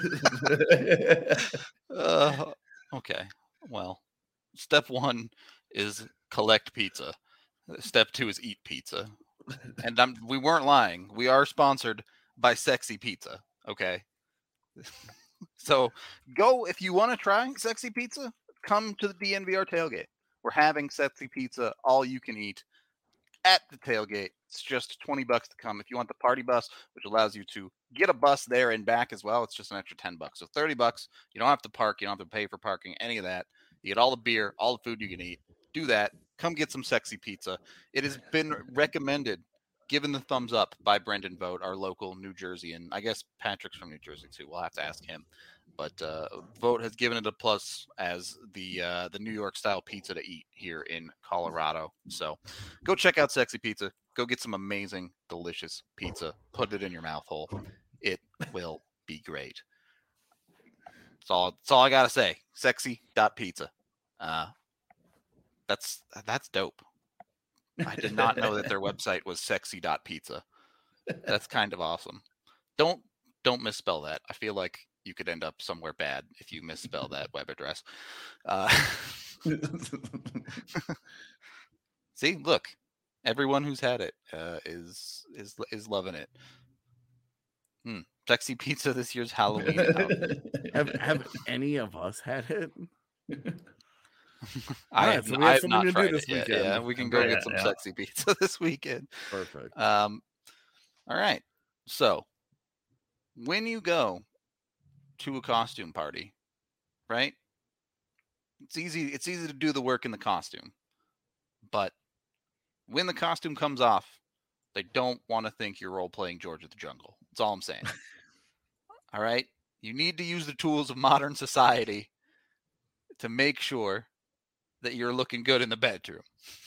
uh, okay. Well, step one is collect pizza. Step two is eat pizza. And I'm, we weren't lying. We are sponsored by Sexy Pizza. Okay. So go if you want to try Sexy Pizza, come to the D N V R tailgate. We're having Sexy Pizza, all you can eat at the tailgate. It's just twenty bucks to come. If you want the party bus, which allows you to get a bus there and back as well, it's just an extra ten bucks. So thirty bucks. You don't have to park. You don't have to pay for parking, any of that. You get all the beer, all the food you can eat. Do that. Come get some Sexy Pizza. It has been recommended, given the thumbs up by Brendan Vogt, our local New Jersey, and I guess Patrick's from New Jersey too. We'll have to ask him. But uh, Vogt has given it a plus as the uh, the New York style pizza to eat here in Colorado. So go check out Sexy Pizza. Go get some amazing, delicious pizza. Put it in your mouth hole. It will be great. That's all. That's all I gotta say. Sexy dot pizza. Uh, that's that's dope. I did not know that their website was sexy dot pizza. That's kind of awesome. Don't don't misspell that. I feel like you could end up somewhere bad if you misspell that web address. Uh, See, look, everyone who's had it uh, is is is loving it. Hmm. Sexy pizza this year's Halloween outfit. Have have any of us had it? I Alright, have, so n- we I have have something not to do tried this it yet. weekend. Yeah, we can go Yeah, get some yeah. sexy pizza this weekend. Perfect. Um, all right. So when you go to a costume party, right? It's easy. It's easy to do the work in the costume, but when the costume comes off, they don't want to think you're role playing George of the Jungle. That's all I'm saying. All right. You need to use the tools of modern society to make sure that you're looking good in the bedroom.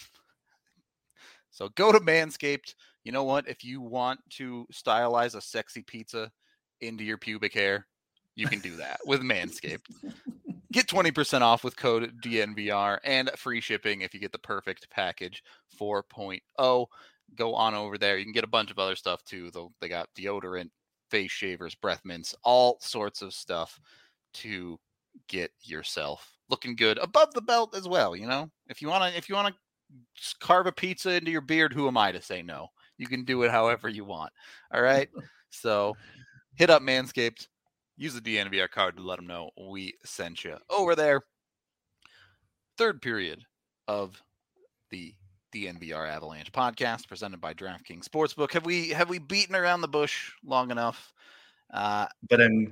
So go to Manscaped. You know what? If you want to stylize a sexy pizza into your pubic hair, you can do that with Manscaped. Get twenty percent off with code D N V R and free shipping if you get the perfect package four point oh. Go on over there. You can get a bunch of other stuff too. Though they got deodorant, face shavers, breath mints, all sorts of stuff to get yourself looking good above the belt as well. You know, if you want to, if you want to carve a pizza into your beard, who am I to say no? You can do it however you want. All right. So hit up Manscaped. Use the D N V R card to let them know we sent you over there. Third period of the D N V R Avalanche podcast presented by DraftKings Sportsbook. Have we have we beaten around the bush long enough? Uh, But then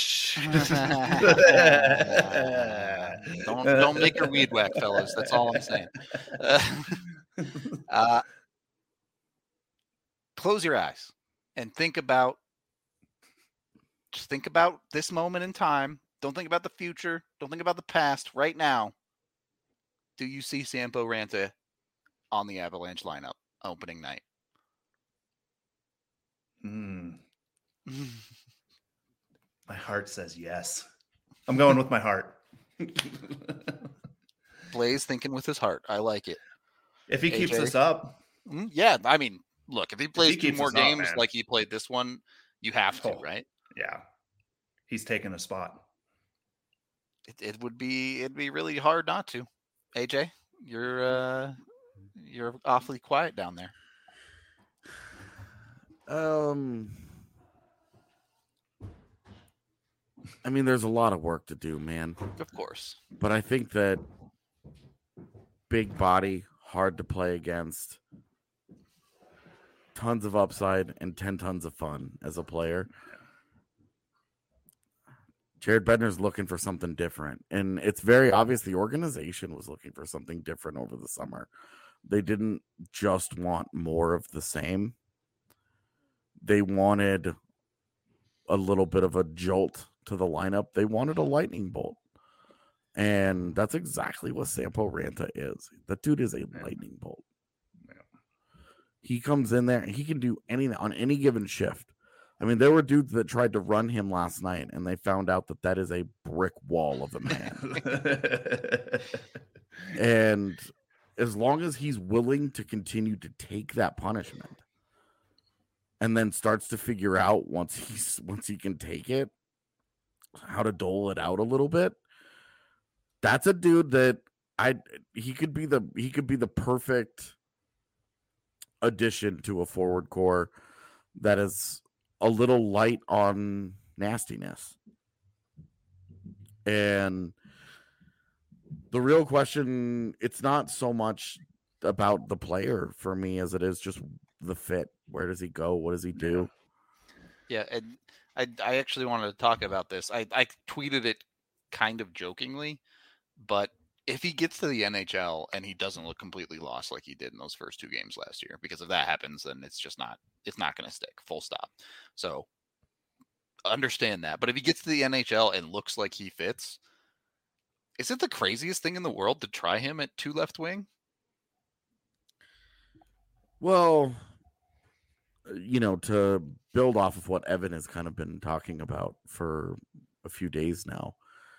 don't don't make her weed whack, fellas. That's all I'm saying. Uh, uh, close your eyes and think about just think about this moment in time. Don't think about the future. Don't think about the past. Right now, do you see Sampo Ranta on the Avalanche lineup opening night? Hmm. My heart says yes. I'm going with my heart. Blaze thinking with his heart. I like it. If he keeps A J? this up, Mm, Yeah, I mean, look, if he plays he two keeps more us up, games man. like he played this one, you have to, Oh. right? yeah, he's taking a spot. It, it would be it'd be really hard not to. A J, you're uh you're awfully quiet down there. Um, I mean, there's a lot of work to do, man. Of course. But I think that big body, hard to play against, tons of upside, and ten tons of fun as a player. Jared Bednar's looking for something different. And it's very obvious the organization was looking for something different over the summer. They didn't just want more of the same. They wanted a little bit of a jolt to the lineup. They wanted a lightning bolt. And that's exactly what Sampo Ranta is. That dude is a lightning bolt. He comes in there and he can do anything on any given shift. I mean, there were dudes that tried to run him last night, and they found out that that is a brick wall of a man. And as long as he's willing to continue to take that punishment, and then starts to figure out once he's once he can take it, how to dole it out a little bit, that's a dude that I he could be the he could be the perfect addition to a forward core that is a little light on nastiness. And the real question, it's not so much about the player for me as it is just the fit. Where does he go? What does he do? Yeah, and I I actually wanted to talk about this. I, I tweeted it kind of jokingly, but if he gets to the N H L and he doesn't look completely lost like he did in those first two games last year, because if that happens, then it's just not it's not going to stick. Full stop. So understand that. But if he gets to the N H L and looks like he fits, is it the craziest thing in the world to try him at two left wing? Well, you know, to build off of what Evan has kind of been talking about for a few days now,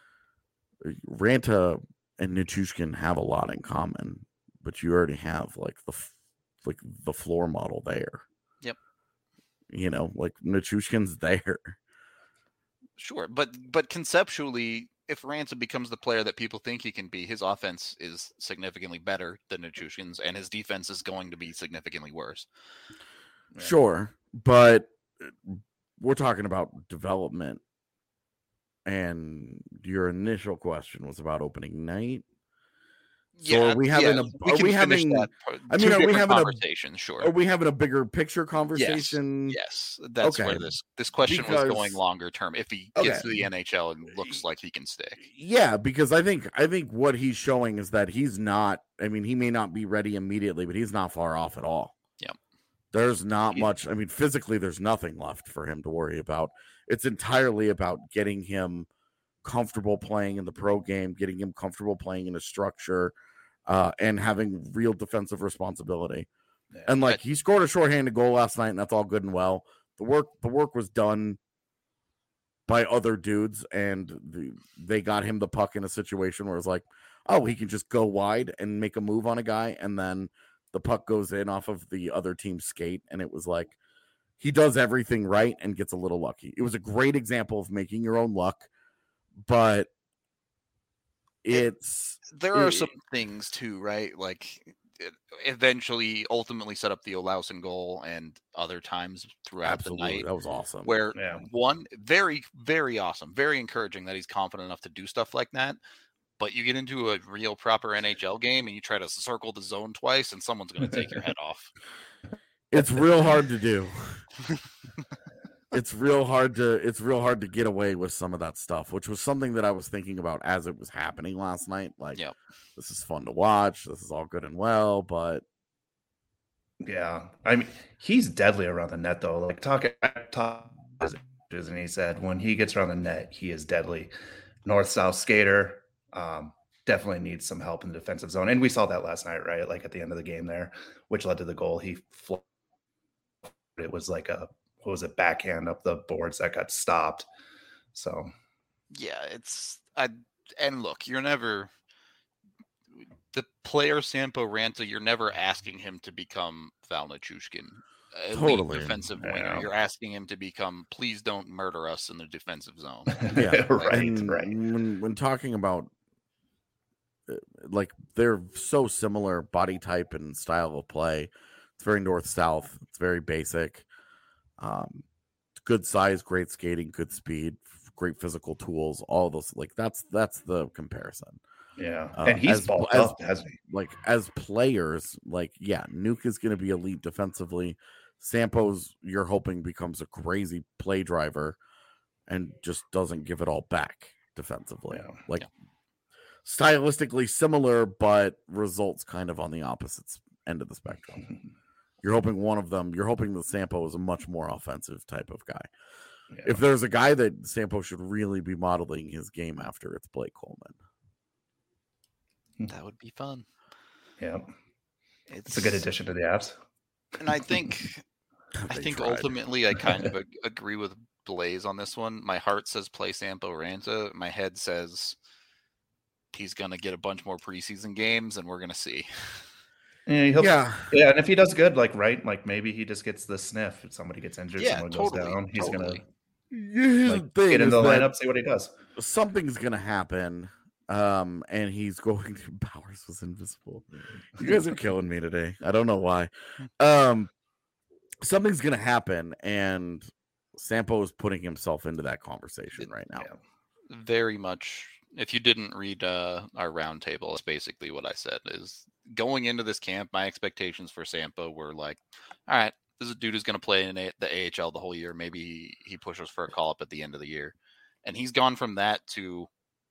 Ranta and Nichushkin have a lot in common, but you already have like the like the floor model there. Yep. You know, like Nichushkin's there. Sure, but but conceptually, if Raanta becomes the player that people think he can be, his offense is significantly better than Nichushkin's, and his defense is going to be significantly worse. Yeah. Sure, but we're talking about development, and your initial question was about opening night. So yeah, are we having yeah, a? we are can we finish having? that. I mean, are we having a conversation? Sure. Are we having a bigger picture conversation? Yes, yes. That's okay. where this this question because, was going longer term. If he okay. gets to the N H L and looks like he can stick. Yeah, because I think I think what he's showing is that he's not. I mean, he may not be ready immediately, but he's not far off at all. Yeah. There's not much. I mean, physically, there's nothing left for him to worry about. It's entirely about getting him comfortable playing in the pro game, getting him comfortable playing in a structure, uh, and having real defensive responsibility. Yeah. And like he scored a shorthanded goal last night, and that's all good and well. The work, the work was done by other dudes, and the, they got him the puck in a situation where it's like, oh, he can just go wide and make a move on a guy, and then the puck goes in off of the other team's skate, and it was like he does everything right and gets a little lucky. It was a great example of making your own luck, but it's it, there are it, some things too, right? Like it eventually, ultimately set up the Olausen goal, and other times throughout absolutely, the night. That was awesome. Where yeah. one very, very awesome, very encouraging that he's confident enough to do stuff like that. But you get into a real proper N H L game and you try to circle the zone twice, and someone's going to take your head off. It's real hard to do. It's real hard to it's real hard to get away with some of that stuff, which was something that I was thinking about as it was happening last night. Like, yep. This is fun to watch. This is all good and well, but yeah, I mean, he's deadly around the net though. Like talking, talk, and he said when he gets around the net, he is deadly. North-south skater. Um, definitely needs some help in the defensive zone. And we saw that last night, right? Like at the end of the game there, which led to the goal. He fl- it was like a, what was it, backhand up the boards that got stopped. So, yeah, it's, I, and look, you're never, the player Sampo Raanta, you're never asking him to become Val Nichushkin. Totally. Defensive yeah. winger. You're asking him to become, please don't murder us in the defensive zone. Yeah, right, and right. When, when talking about, like, they're so similar body type and style of play. It's very north-south. It's very basic. Um, good size, great skating, good speed, great physical tools. All those, like, that's that's the comparison. Yeah, uh, and he's as, bulked as, up, hasn't he? Like, as players, like, yeah, Nuke is going to be elite defensively. Sampo's, you're hoping, becomes a crazy play driver and just doesn't give it all back defensively. Yeah. Like, yeah. stylistically similar, but results kind of on the opposite end of the spectrum. You're hoping one of them, you're hoping that Sampo is a much more offensive type of guy. Yeah. If there's a guy that Sampo should really be modeling his game after, it's Blake Coleman. That would be fun. Yeah. It's, it's a good addition to the apps. And I think I think tried. ultimately I kind of ag- agree with Blaze on this one. My heart says play Sampo Raanta. My head says he's going to get a bunch more preseason games, and we're going to see. Yeah, he'll, yeah, yeah, and if he does good, like right, like maybe he just gets the sniff. If somebody gets injured, yeah, someone totally, goes down, he's totally. gonna like, get in the lineup, see what he does. Something's gonna happen, um, and he's going to. Bowers was invisible. You guys are killing me today. I don't know why. Um, something's gonna happen, and Sampo is putting himself into that conversation right now. Yeah. Very much. If you didn't read uh, our roundtable, it's basically what I said is going into this camp, my expectations for Sampo were like, all right, this is a dude who's going to play in a- the A H L the whole year. Maybe he, he pushes for a call up at the end of the year. And he's gone from that to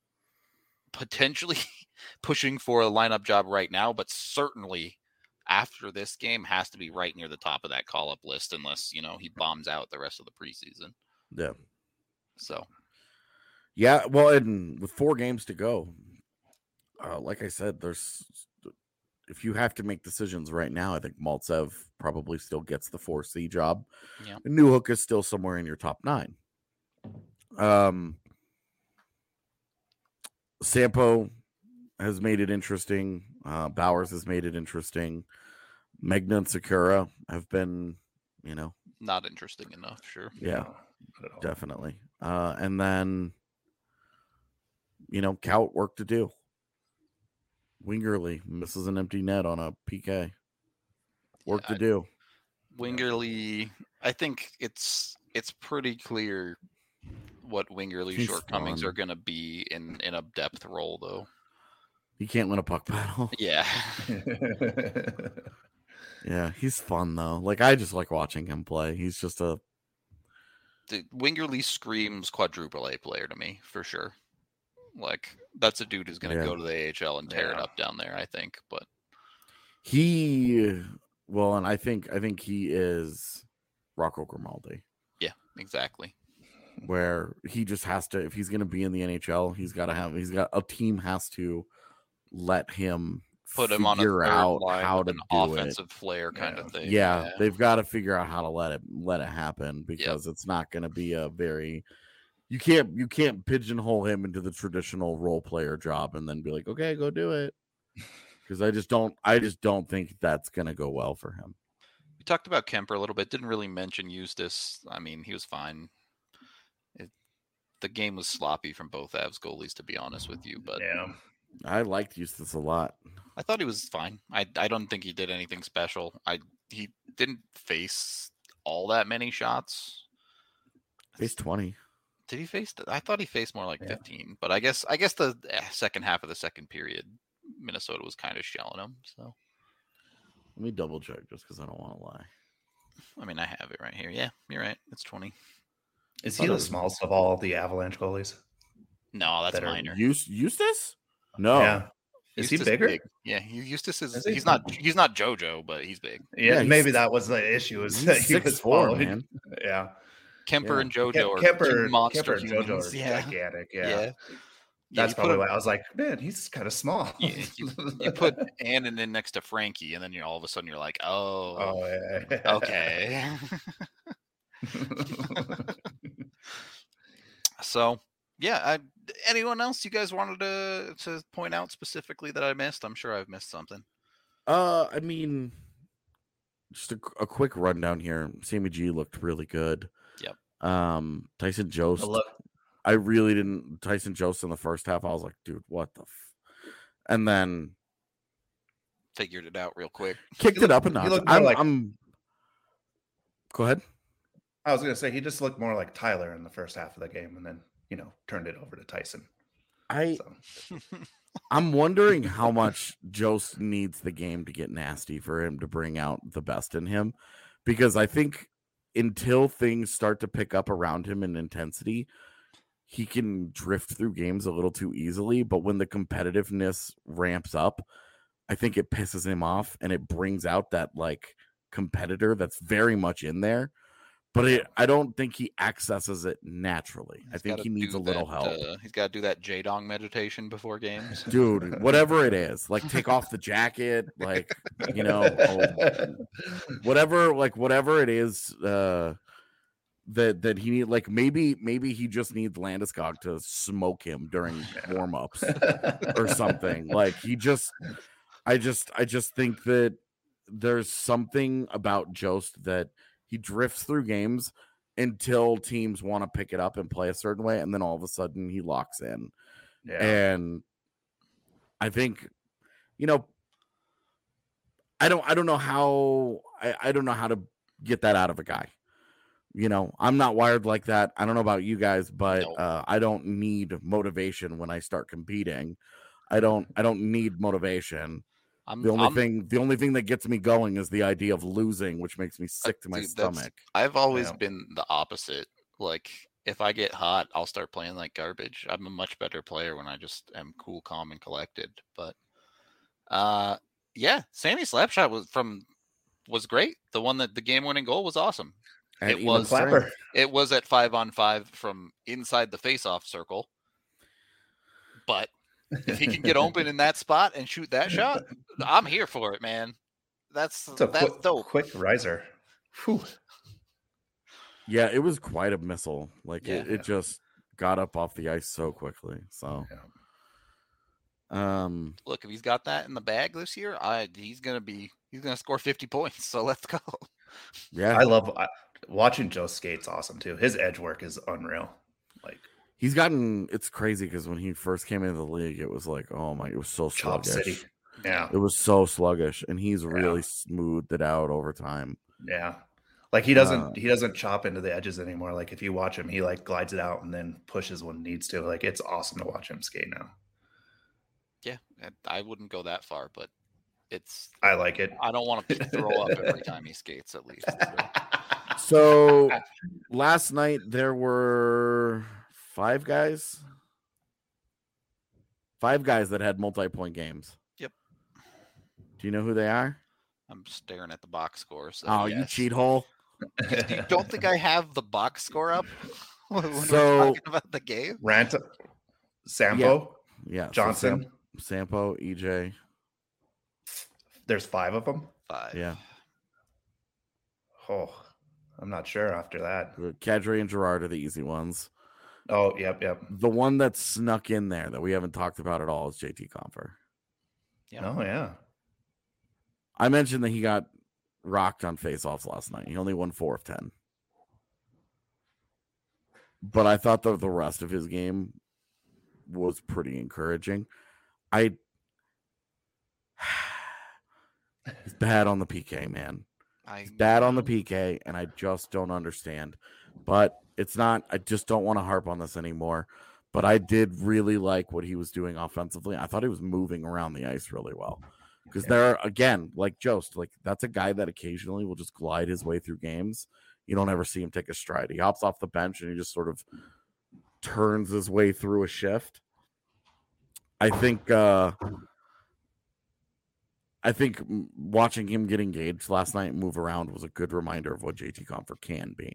potentially pushing for a lineup job right now, but certainly after this game has to be right near the top of that call up list unless, you know, he bombs out the rest of the preseason. Yeah. So. Yeah, well, and with four games to go, uh, like I said, there's if you have to make decisions right now, I think Maltsev probably still gets the four C job. Yeah. And Newhook is still somewhere in your top nine. Um, Sampo has made it interesting. Uh, Bowers has made it interesting. Megna and Sakura have been, you know, not interesting enough. Sure. Yeah, definitely. Uh, and then you know, Kaut work to do. Wingerly misses an empty net on a P K. Work Yeah, to I- do. Wingerly, I think it's it's pretty clear what Wingerly's He's shortcomings fun. are going to be in in a depth role, though. He can't win a puck battle. Yeah, Yeah, he's fun though. Like I just like watching him play. He's just a the Wingerly screams quadruple A player to me for sure. Like that's a dude who's going to Yeah. go to the A H L and tear it Yeah. up down there. I think, but he. Well, and I think I think he is Rocco Grimaldi, yeah, exactly. where he just has to. If he's going to be in the N H L, he's got to have. He's got a team has to let him Put him on a figure third out line how with to an do offensive flair kind Yeah. of it. thing. Yeah, they've got to figure out how to let it let it happen because it's not going to be a very. You can't you can't pigeonhole him into the traditional role player job and then be like, okay, go do it. Because I just don't I just don't think that's going to go well for him. We talked about Kemper a little bit. Didn't really mention Eustace. I mean, he was fine. It, the game was sloppy from both Avs goalies, to be honest with you. But yeah. I liked Eustace a lot. I thought he was fine. I I don't think he did anything special. I he didn't face all that many shots. Face twenty. Did he face? The, I thought he faced more like Yeah. fifteen. But I guess I guess the eh, second half of the second period, Minnesota was kind of shelling him. So Let me double check just because I don't want to lie. I mean, I have it right here. Yeah, you're right. It's twenty. Is Oh, he no. the smallest of all the Avalanche goalies? No, that's That are minor. Eust- Eustace? No. Yeah. Is he Eustace bigger? big. Yeah, he, Eustace is. Is he? He's not. He's not JoJo, but he's big. Yeah, Yeah, he's- maybe that was the issue. Is He's that he six was four, following- man. Yeah. Kemper Yeah. and JoJo Ke- are Kemper, two monster Kemper and JoJo humans. are Yeah, gigantic. Yeah. yeah. Yeah, That's you probably put why him- I was like, man, he's kind of small. you, you, you put Annan in next to Frankie, and then you're all of a sudden you're like, oh, Oh, yeah. okay. So, yeah. I, anyone else you guys wanted to to point out specifically that I missed? I'm sure I've missed something. Uh, I mean, just a, a quick rundown here. Sammy G looked really good. Yep. Um, Tyson Jost. But look, I really didn't. Tyson Jost in the first half, I was like, dude, what the? F-? And then Figured it out real quick. kicked looked- it up a he notch. looked more I'm, like- I'm. Go ahead. I was gonna say he just looked more like Tyler in the first half of the game, and then you know turned it over to Tyson. I So I'm wondering how much Jost needs the game to get nasty for him to bring out the best in him, because I think until things start to pick up around him in intensity, he can drift through games a little too easily. But when the competitiveness ramps up, I think it pisses him off and it brings out that like competitor that's very much in there. But it, I don't think he accesses it naturally. I He's think gotta he needs do a little that, help. Uh, he's got to do that J-Dong meditation before games. Dude, whatever it is, like take off the jacket, like, you know, oh, whatever, like whatever it is, uh, that that he need, like maybe maybe he just needs Landeskog to smoke him during warm ups or something. Like he just, I just, I just think that there's something about Jost that he drifts through games until teams want to pick it up and play a certain way, and then all of a sudden he locks in. yeah, And I think, you know, I don't I don't know how I, I don't know how to get that out of a guy. You know, I'm not wired like that. I don't know about you guys, but No. uh, I don't need motivation when I start competing. I don't I don't need motivation. I'm, The only I'm- thing the only thing that gets me going is the idea of losing, which makes me sick to my dude, that's- stomach. I've always Yeah. been the opposite. Like if I get hot, I'll start playing like garbage. I'm a much better player when I just am cool, calm, and collected. But uh yeah, Sammy Slapshot was from was great. The one that the game winning goal was awesome. At it even was strength. Clapper. It was at five on five from inside the face-off circle. But if he can get open in that spot and shoot that shot, I'm here for it, man. That's It's a that's quick, dope. quick riser. Whew. Yeah, it was quite a missile. Like it, Yeah. it just got up off the ice so quickly. So um Look, if he's got that in the bag this year, I he's gonna be he's gonna score fifty points. So let's go. yeah. I love I, watching Joe skate's awesome too. His edge work is unreal. Like he's gotten. It's crazy because when he first came into the league, it was like, oh my, it was so Chop sluggish. City. Yeah. It was so sluggish, and he's really Yeah. smoothed it out over time. Yeah. Like he doesn't Uh, he doesn't chop into the edges anymore. Like if you watch him, he like glides it out and then pushes when needs to. Like it's awesome to watch him skate now. Yeah, and I wouldn't go that far, but it's. I like it. I don't want to throw up every time he skates. At least. So. So last night there were five guys, five guys that had multi-point games. Yep. Do you know who they are? I'm staring at the box score. So Oh, you yes. cheat hole! You don't think I have the box score up when So- we're talking about the game? Rant Sampo, Yeah, so Johnson. Sam- Sampo, E J. There's five of them. Five. Yeah, Oh, I'm not sure after that. Kadri and Gerard are the easy ones. Oh, yep, yep. The one that snuck in there that we haven't talked about at all is J T Confer. Yeah. Oh, yeah. I mentioned that he got rocked on faceoffs last night. He only won four of ten. But I thought that the rest of his game was pretty encouraging. I he's bad on the P K, man. I He's bad on the P K, and I just don't understand. But it's not, I just don't want to harp on this anymore. But I did really like what he was doing offensively. I thought he was moving around the ice really well. Because there are, again, like Jost, like that's a guy that occasionally will just glide his way through games. You don't ever see him take a stride. He hops off the bench and he just sort of turns his way through a shift. I think uh I think m- watching him get engaged last night and move around was a good reminder of what J T Confer can be.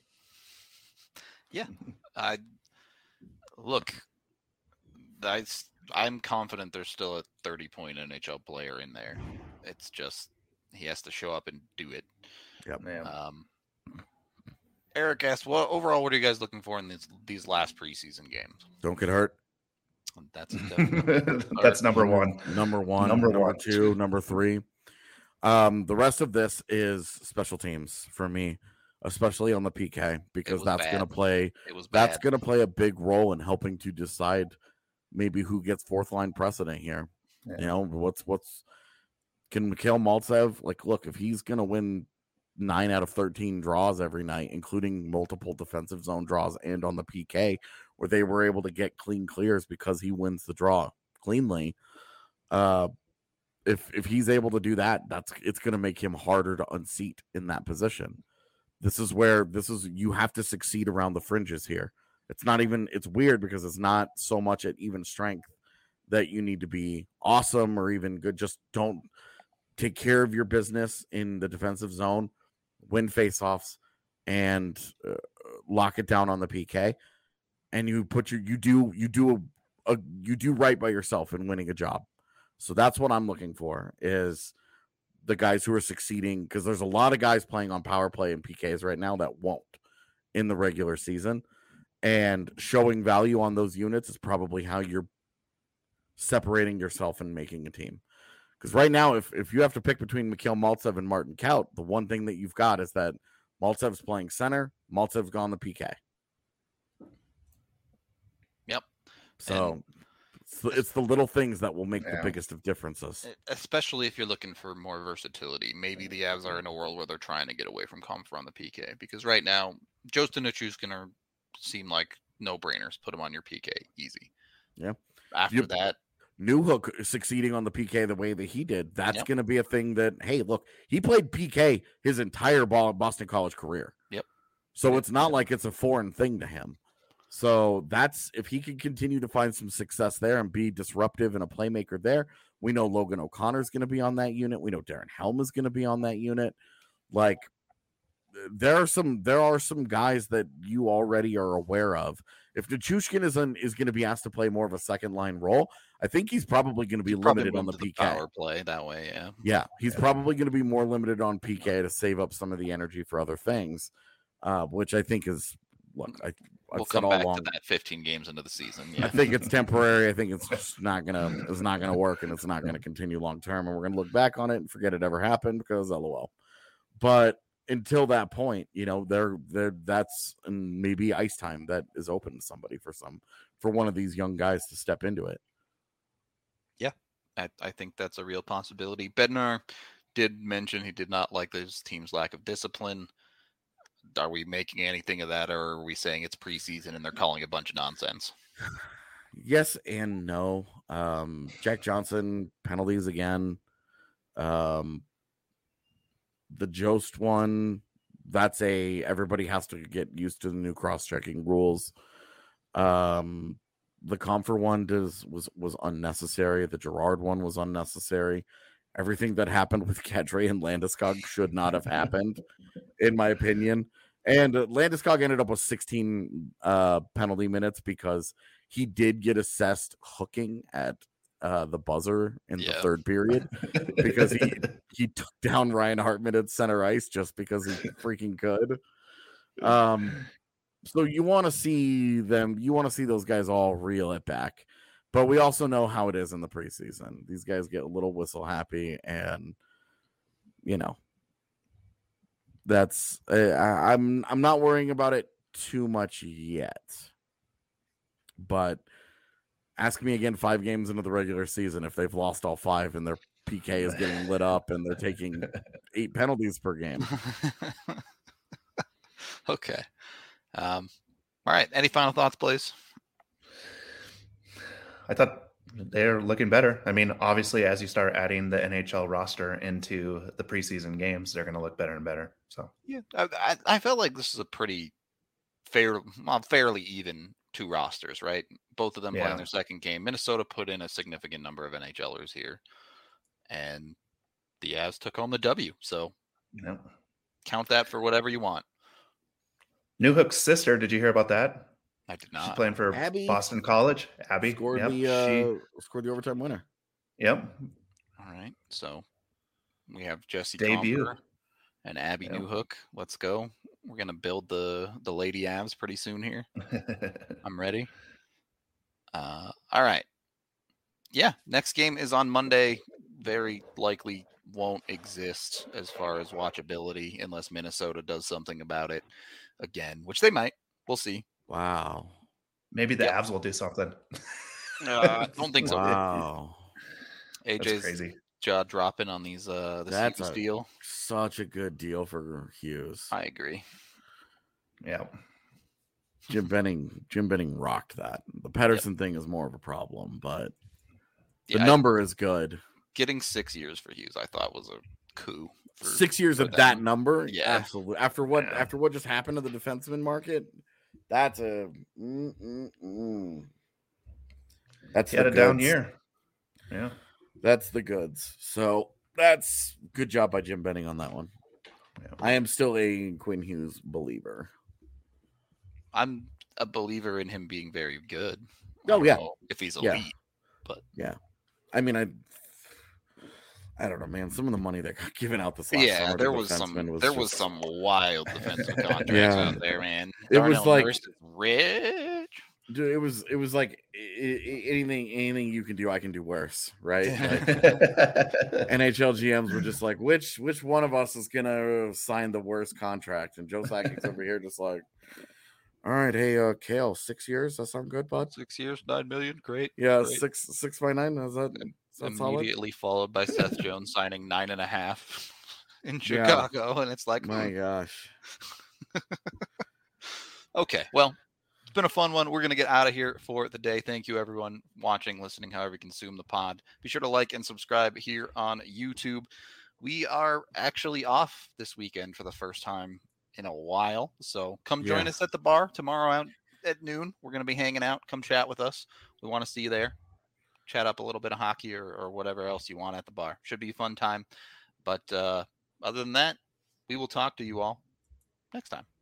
Yeah. I look. I s- I'm confident there's still a thirty point N H L player in there. It's just he has to show up and do it. Yeah. Um, Eric asked, "Well, overall, what are you guys looking for in these these last preseason games?" Don't get hurt. That's a definite- That's number one. Number one, Number number, one. two, number three. Um, the rest of this is special teams for me, especially on the P K, because was that's bad. going to play. It was That's bad. going to play a big role in helping to decide maybe who gets fourth line precedent here. Yeah. You know, what's what's can Mikhail Maltsev, like, look, if he's going to win nine out of thirteen draws every night, including multiple defensive zone draws and on the P K, where they were able to get clean clears because he wins the draw cleanly. Uh, if if he's able to do that, that's it's going to make him harder to unseat in that position. This is where this is you have to succeed around the fringes here. It's not even it's weird because it's not so much at even strength that you need to be awesome or even good. Just don't take care of your business in the defensive zone, win faceoffs, and uh, lock it down on the P K. And you put your you do you do a, a you do right by yourself in winning a job. So that's what I'm looking for is the guys who are succeeding, because there's a lot of guys playing on power play and P Ks right now that won't in the regular season. And showing value on those units is probably how you're separating yourself and making a team. Because right now, if, if you have to pick between Mikhail Maltsev and Martin Kaut, the one thing that you've got is that Maltsev's playing center, Maltsev's gone the P K. Yep. So And- it's, the, it's the little things that will make Yeah. the biggest of differences. E- Especially if you're looking for more versatility. Maybe the Avs are in a world where they're trying to get away from Comfer on the P K. Because right now, Jostin Nichushkin are seem like no-brainers. Put him on your P K. Easy. Yeah. After You- that, Newhook succeeding on the P K the way that he did, that's Yep. going to be a thing that, hey, look, he played P K his entire ball Boston College career. Yep. So it's not like it's a foreign thing to him. So that's if he can continue to find some success there and be disruptive and a playmaker there. We know Logan O'Connor is going to be on that unit. We know Darren Helm is going to be on that unit. Like there are some there are some guys that you already are aware of. If Nichushkin is on, is going to be asked to play more of a second line role, I think he's probably going to be you probably limited on move the to P K. power play that way. Yeah. Yeah, he's Yeah. probably going to be more limited on P K to save up some of the energy for other things, uh, which I think is look. I, I've We'll said come all back along. to that fifteen games into the season. I Yeah. think it's temporary. I think it's just not gonna it's not gonna work, and it's not gonna continue long term. And we're gonna look back on it and forget it ever happened because LOL. But until that point, you know, they're they're that's maybe ice time that is open to somebody for some for one of these young guys to step into it. Yeah, I, I think that's a real possibility. Bednar did mention he did not like this team's lack of discipline. Are we making anything of that, or are we saying it's preseason and they're calling a bunch of nonsense? Yes and no. Um, Jack Johnson penalties again. Um, the Jost one, that's a everybody has to get used to the new cross-checking rules. Um, the Comfer one does was was unnecessary. The Gerard one was unnecessary. Everything that happened with Kadri and Landeskog should not have happened, in my opinion. And uh, Landeskog ended up with sixteen uh, penalty minutes because he did get assessed hooking at uh, the buzzer in Yeah. the third period because he he took down Ryan Hartman at center ice just because he freaking could. Um, so you want to see them, you want to see those guys all reel it back. But we also know how it is in the preseason. These guys get a little whistle happy, and you know, that's uh, I, I'm I'm not worrying about it too much yet. But ask me again five games into the regular season if they've lost all five and their P K is getting lit up and they're taking eight penalties per game. Okay. Um, all right. Any final thoughts, please? I thought they're looking better. I mean, obviously, as you start adding the N H L roster into the preseason games, they're going to look better and better. So Yeah, I, I, I felt like this is a pretty fair, well, fairly even two rosters, right? Both of them Yeah. playing their second game. Minnesota put in a significant number of NHLers here, and the Avs took home the W. So you know, count that for whatever you want. Newhook's sister, did you hear about that? I did She's not. playing for Abby Boston College. Abby Scored yep. the uh, she, scored the overtime winner. yep. All right. So we have Jesse Debut. Comfer and Abby Yep. Newhook. Let's go. We're gonna build the the Lady Avs pretty soon here. I'm ready. Uh, all right. Yeah, next game is on Monday. Very likely won't exist as far as watchability unless Minnesota does something about it again, which they might. We'll see. Wow. Maybe the Yep. Avs will do something. Uh, I don't think so. Wow. A That's J's crazy. jaw dropping on these uh the That's Hughes a- deal. Such a good deal for Hughes. I agree. Yeah. Jim Benning, Jim Benning rocked that. The Pedersen thing is more of a problem, but the Yeah, I- number is good. getting six years for Hughes, I thought was a coup. For, Six years for of that them. number, Yeah. absolutely. After what, Yeah. after what just happened to the defenseman market, that's a mm, mm, mm. that's He had the a down goods. year. Yeah. That's the goods. So that's good job by Jim Benning on that one. Yeah. I am still a Quinn Hughes believer. I'm a believer in him being very good. Oh, I don't yeah. know if he's Yeah. elite. I mean, I, I don't know, man. Some of the money that got given out this last Yeah, summer to there was some defensemen was there just- was some wild defensive contracts Yeah. out there, man. It was Darnell like- Nurse is rich. Dude, it was it was like I- I- anything anything you can do, I can do worse, right? Like, N H L G Ms were just like, which which one of us is gonna sign the worst contract? And Joe Sakic's over here just like, all right, hey, uh, Kale, six years. That sound good, bud? Six years, nine million, great. Yeah, Great. six six by nine. Is that, is that solid? Immediately followed by Seth Jones signing nine and a half in Yeah. Chicago, and it's like, My hmm, gosh. okay, well, it's been a fun one. We're going to get out of here for the day. Thank you, everyone watching, listening, however you consume the pod. Be sure to like and subscribe here on YouTube. We are actually off this weekend for the first time in a while. So come join Yeah. us at the bar tomorrow out at noon. We're going to be hanging out. Come chat with us. We want to see you there. Chat up a little bit of hockey or, or whatever else you want at the bar. Should be a fun time. But uh, other than that, we will talk to you all next time.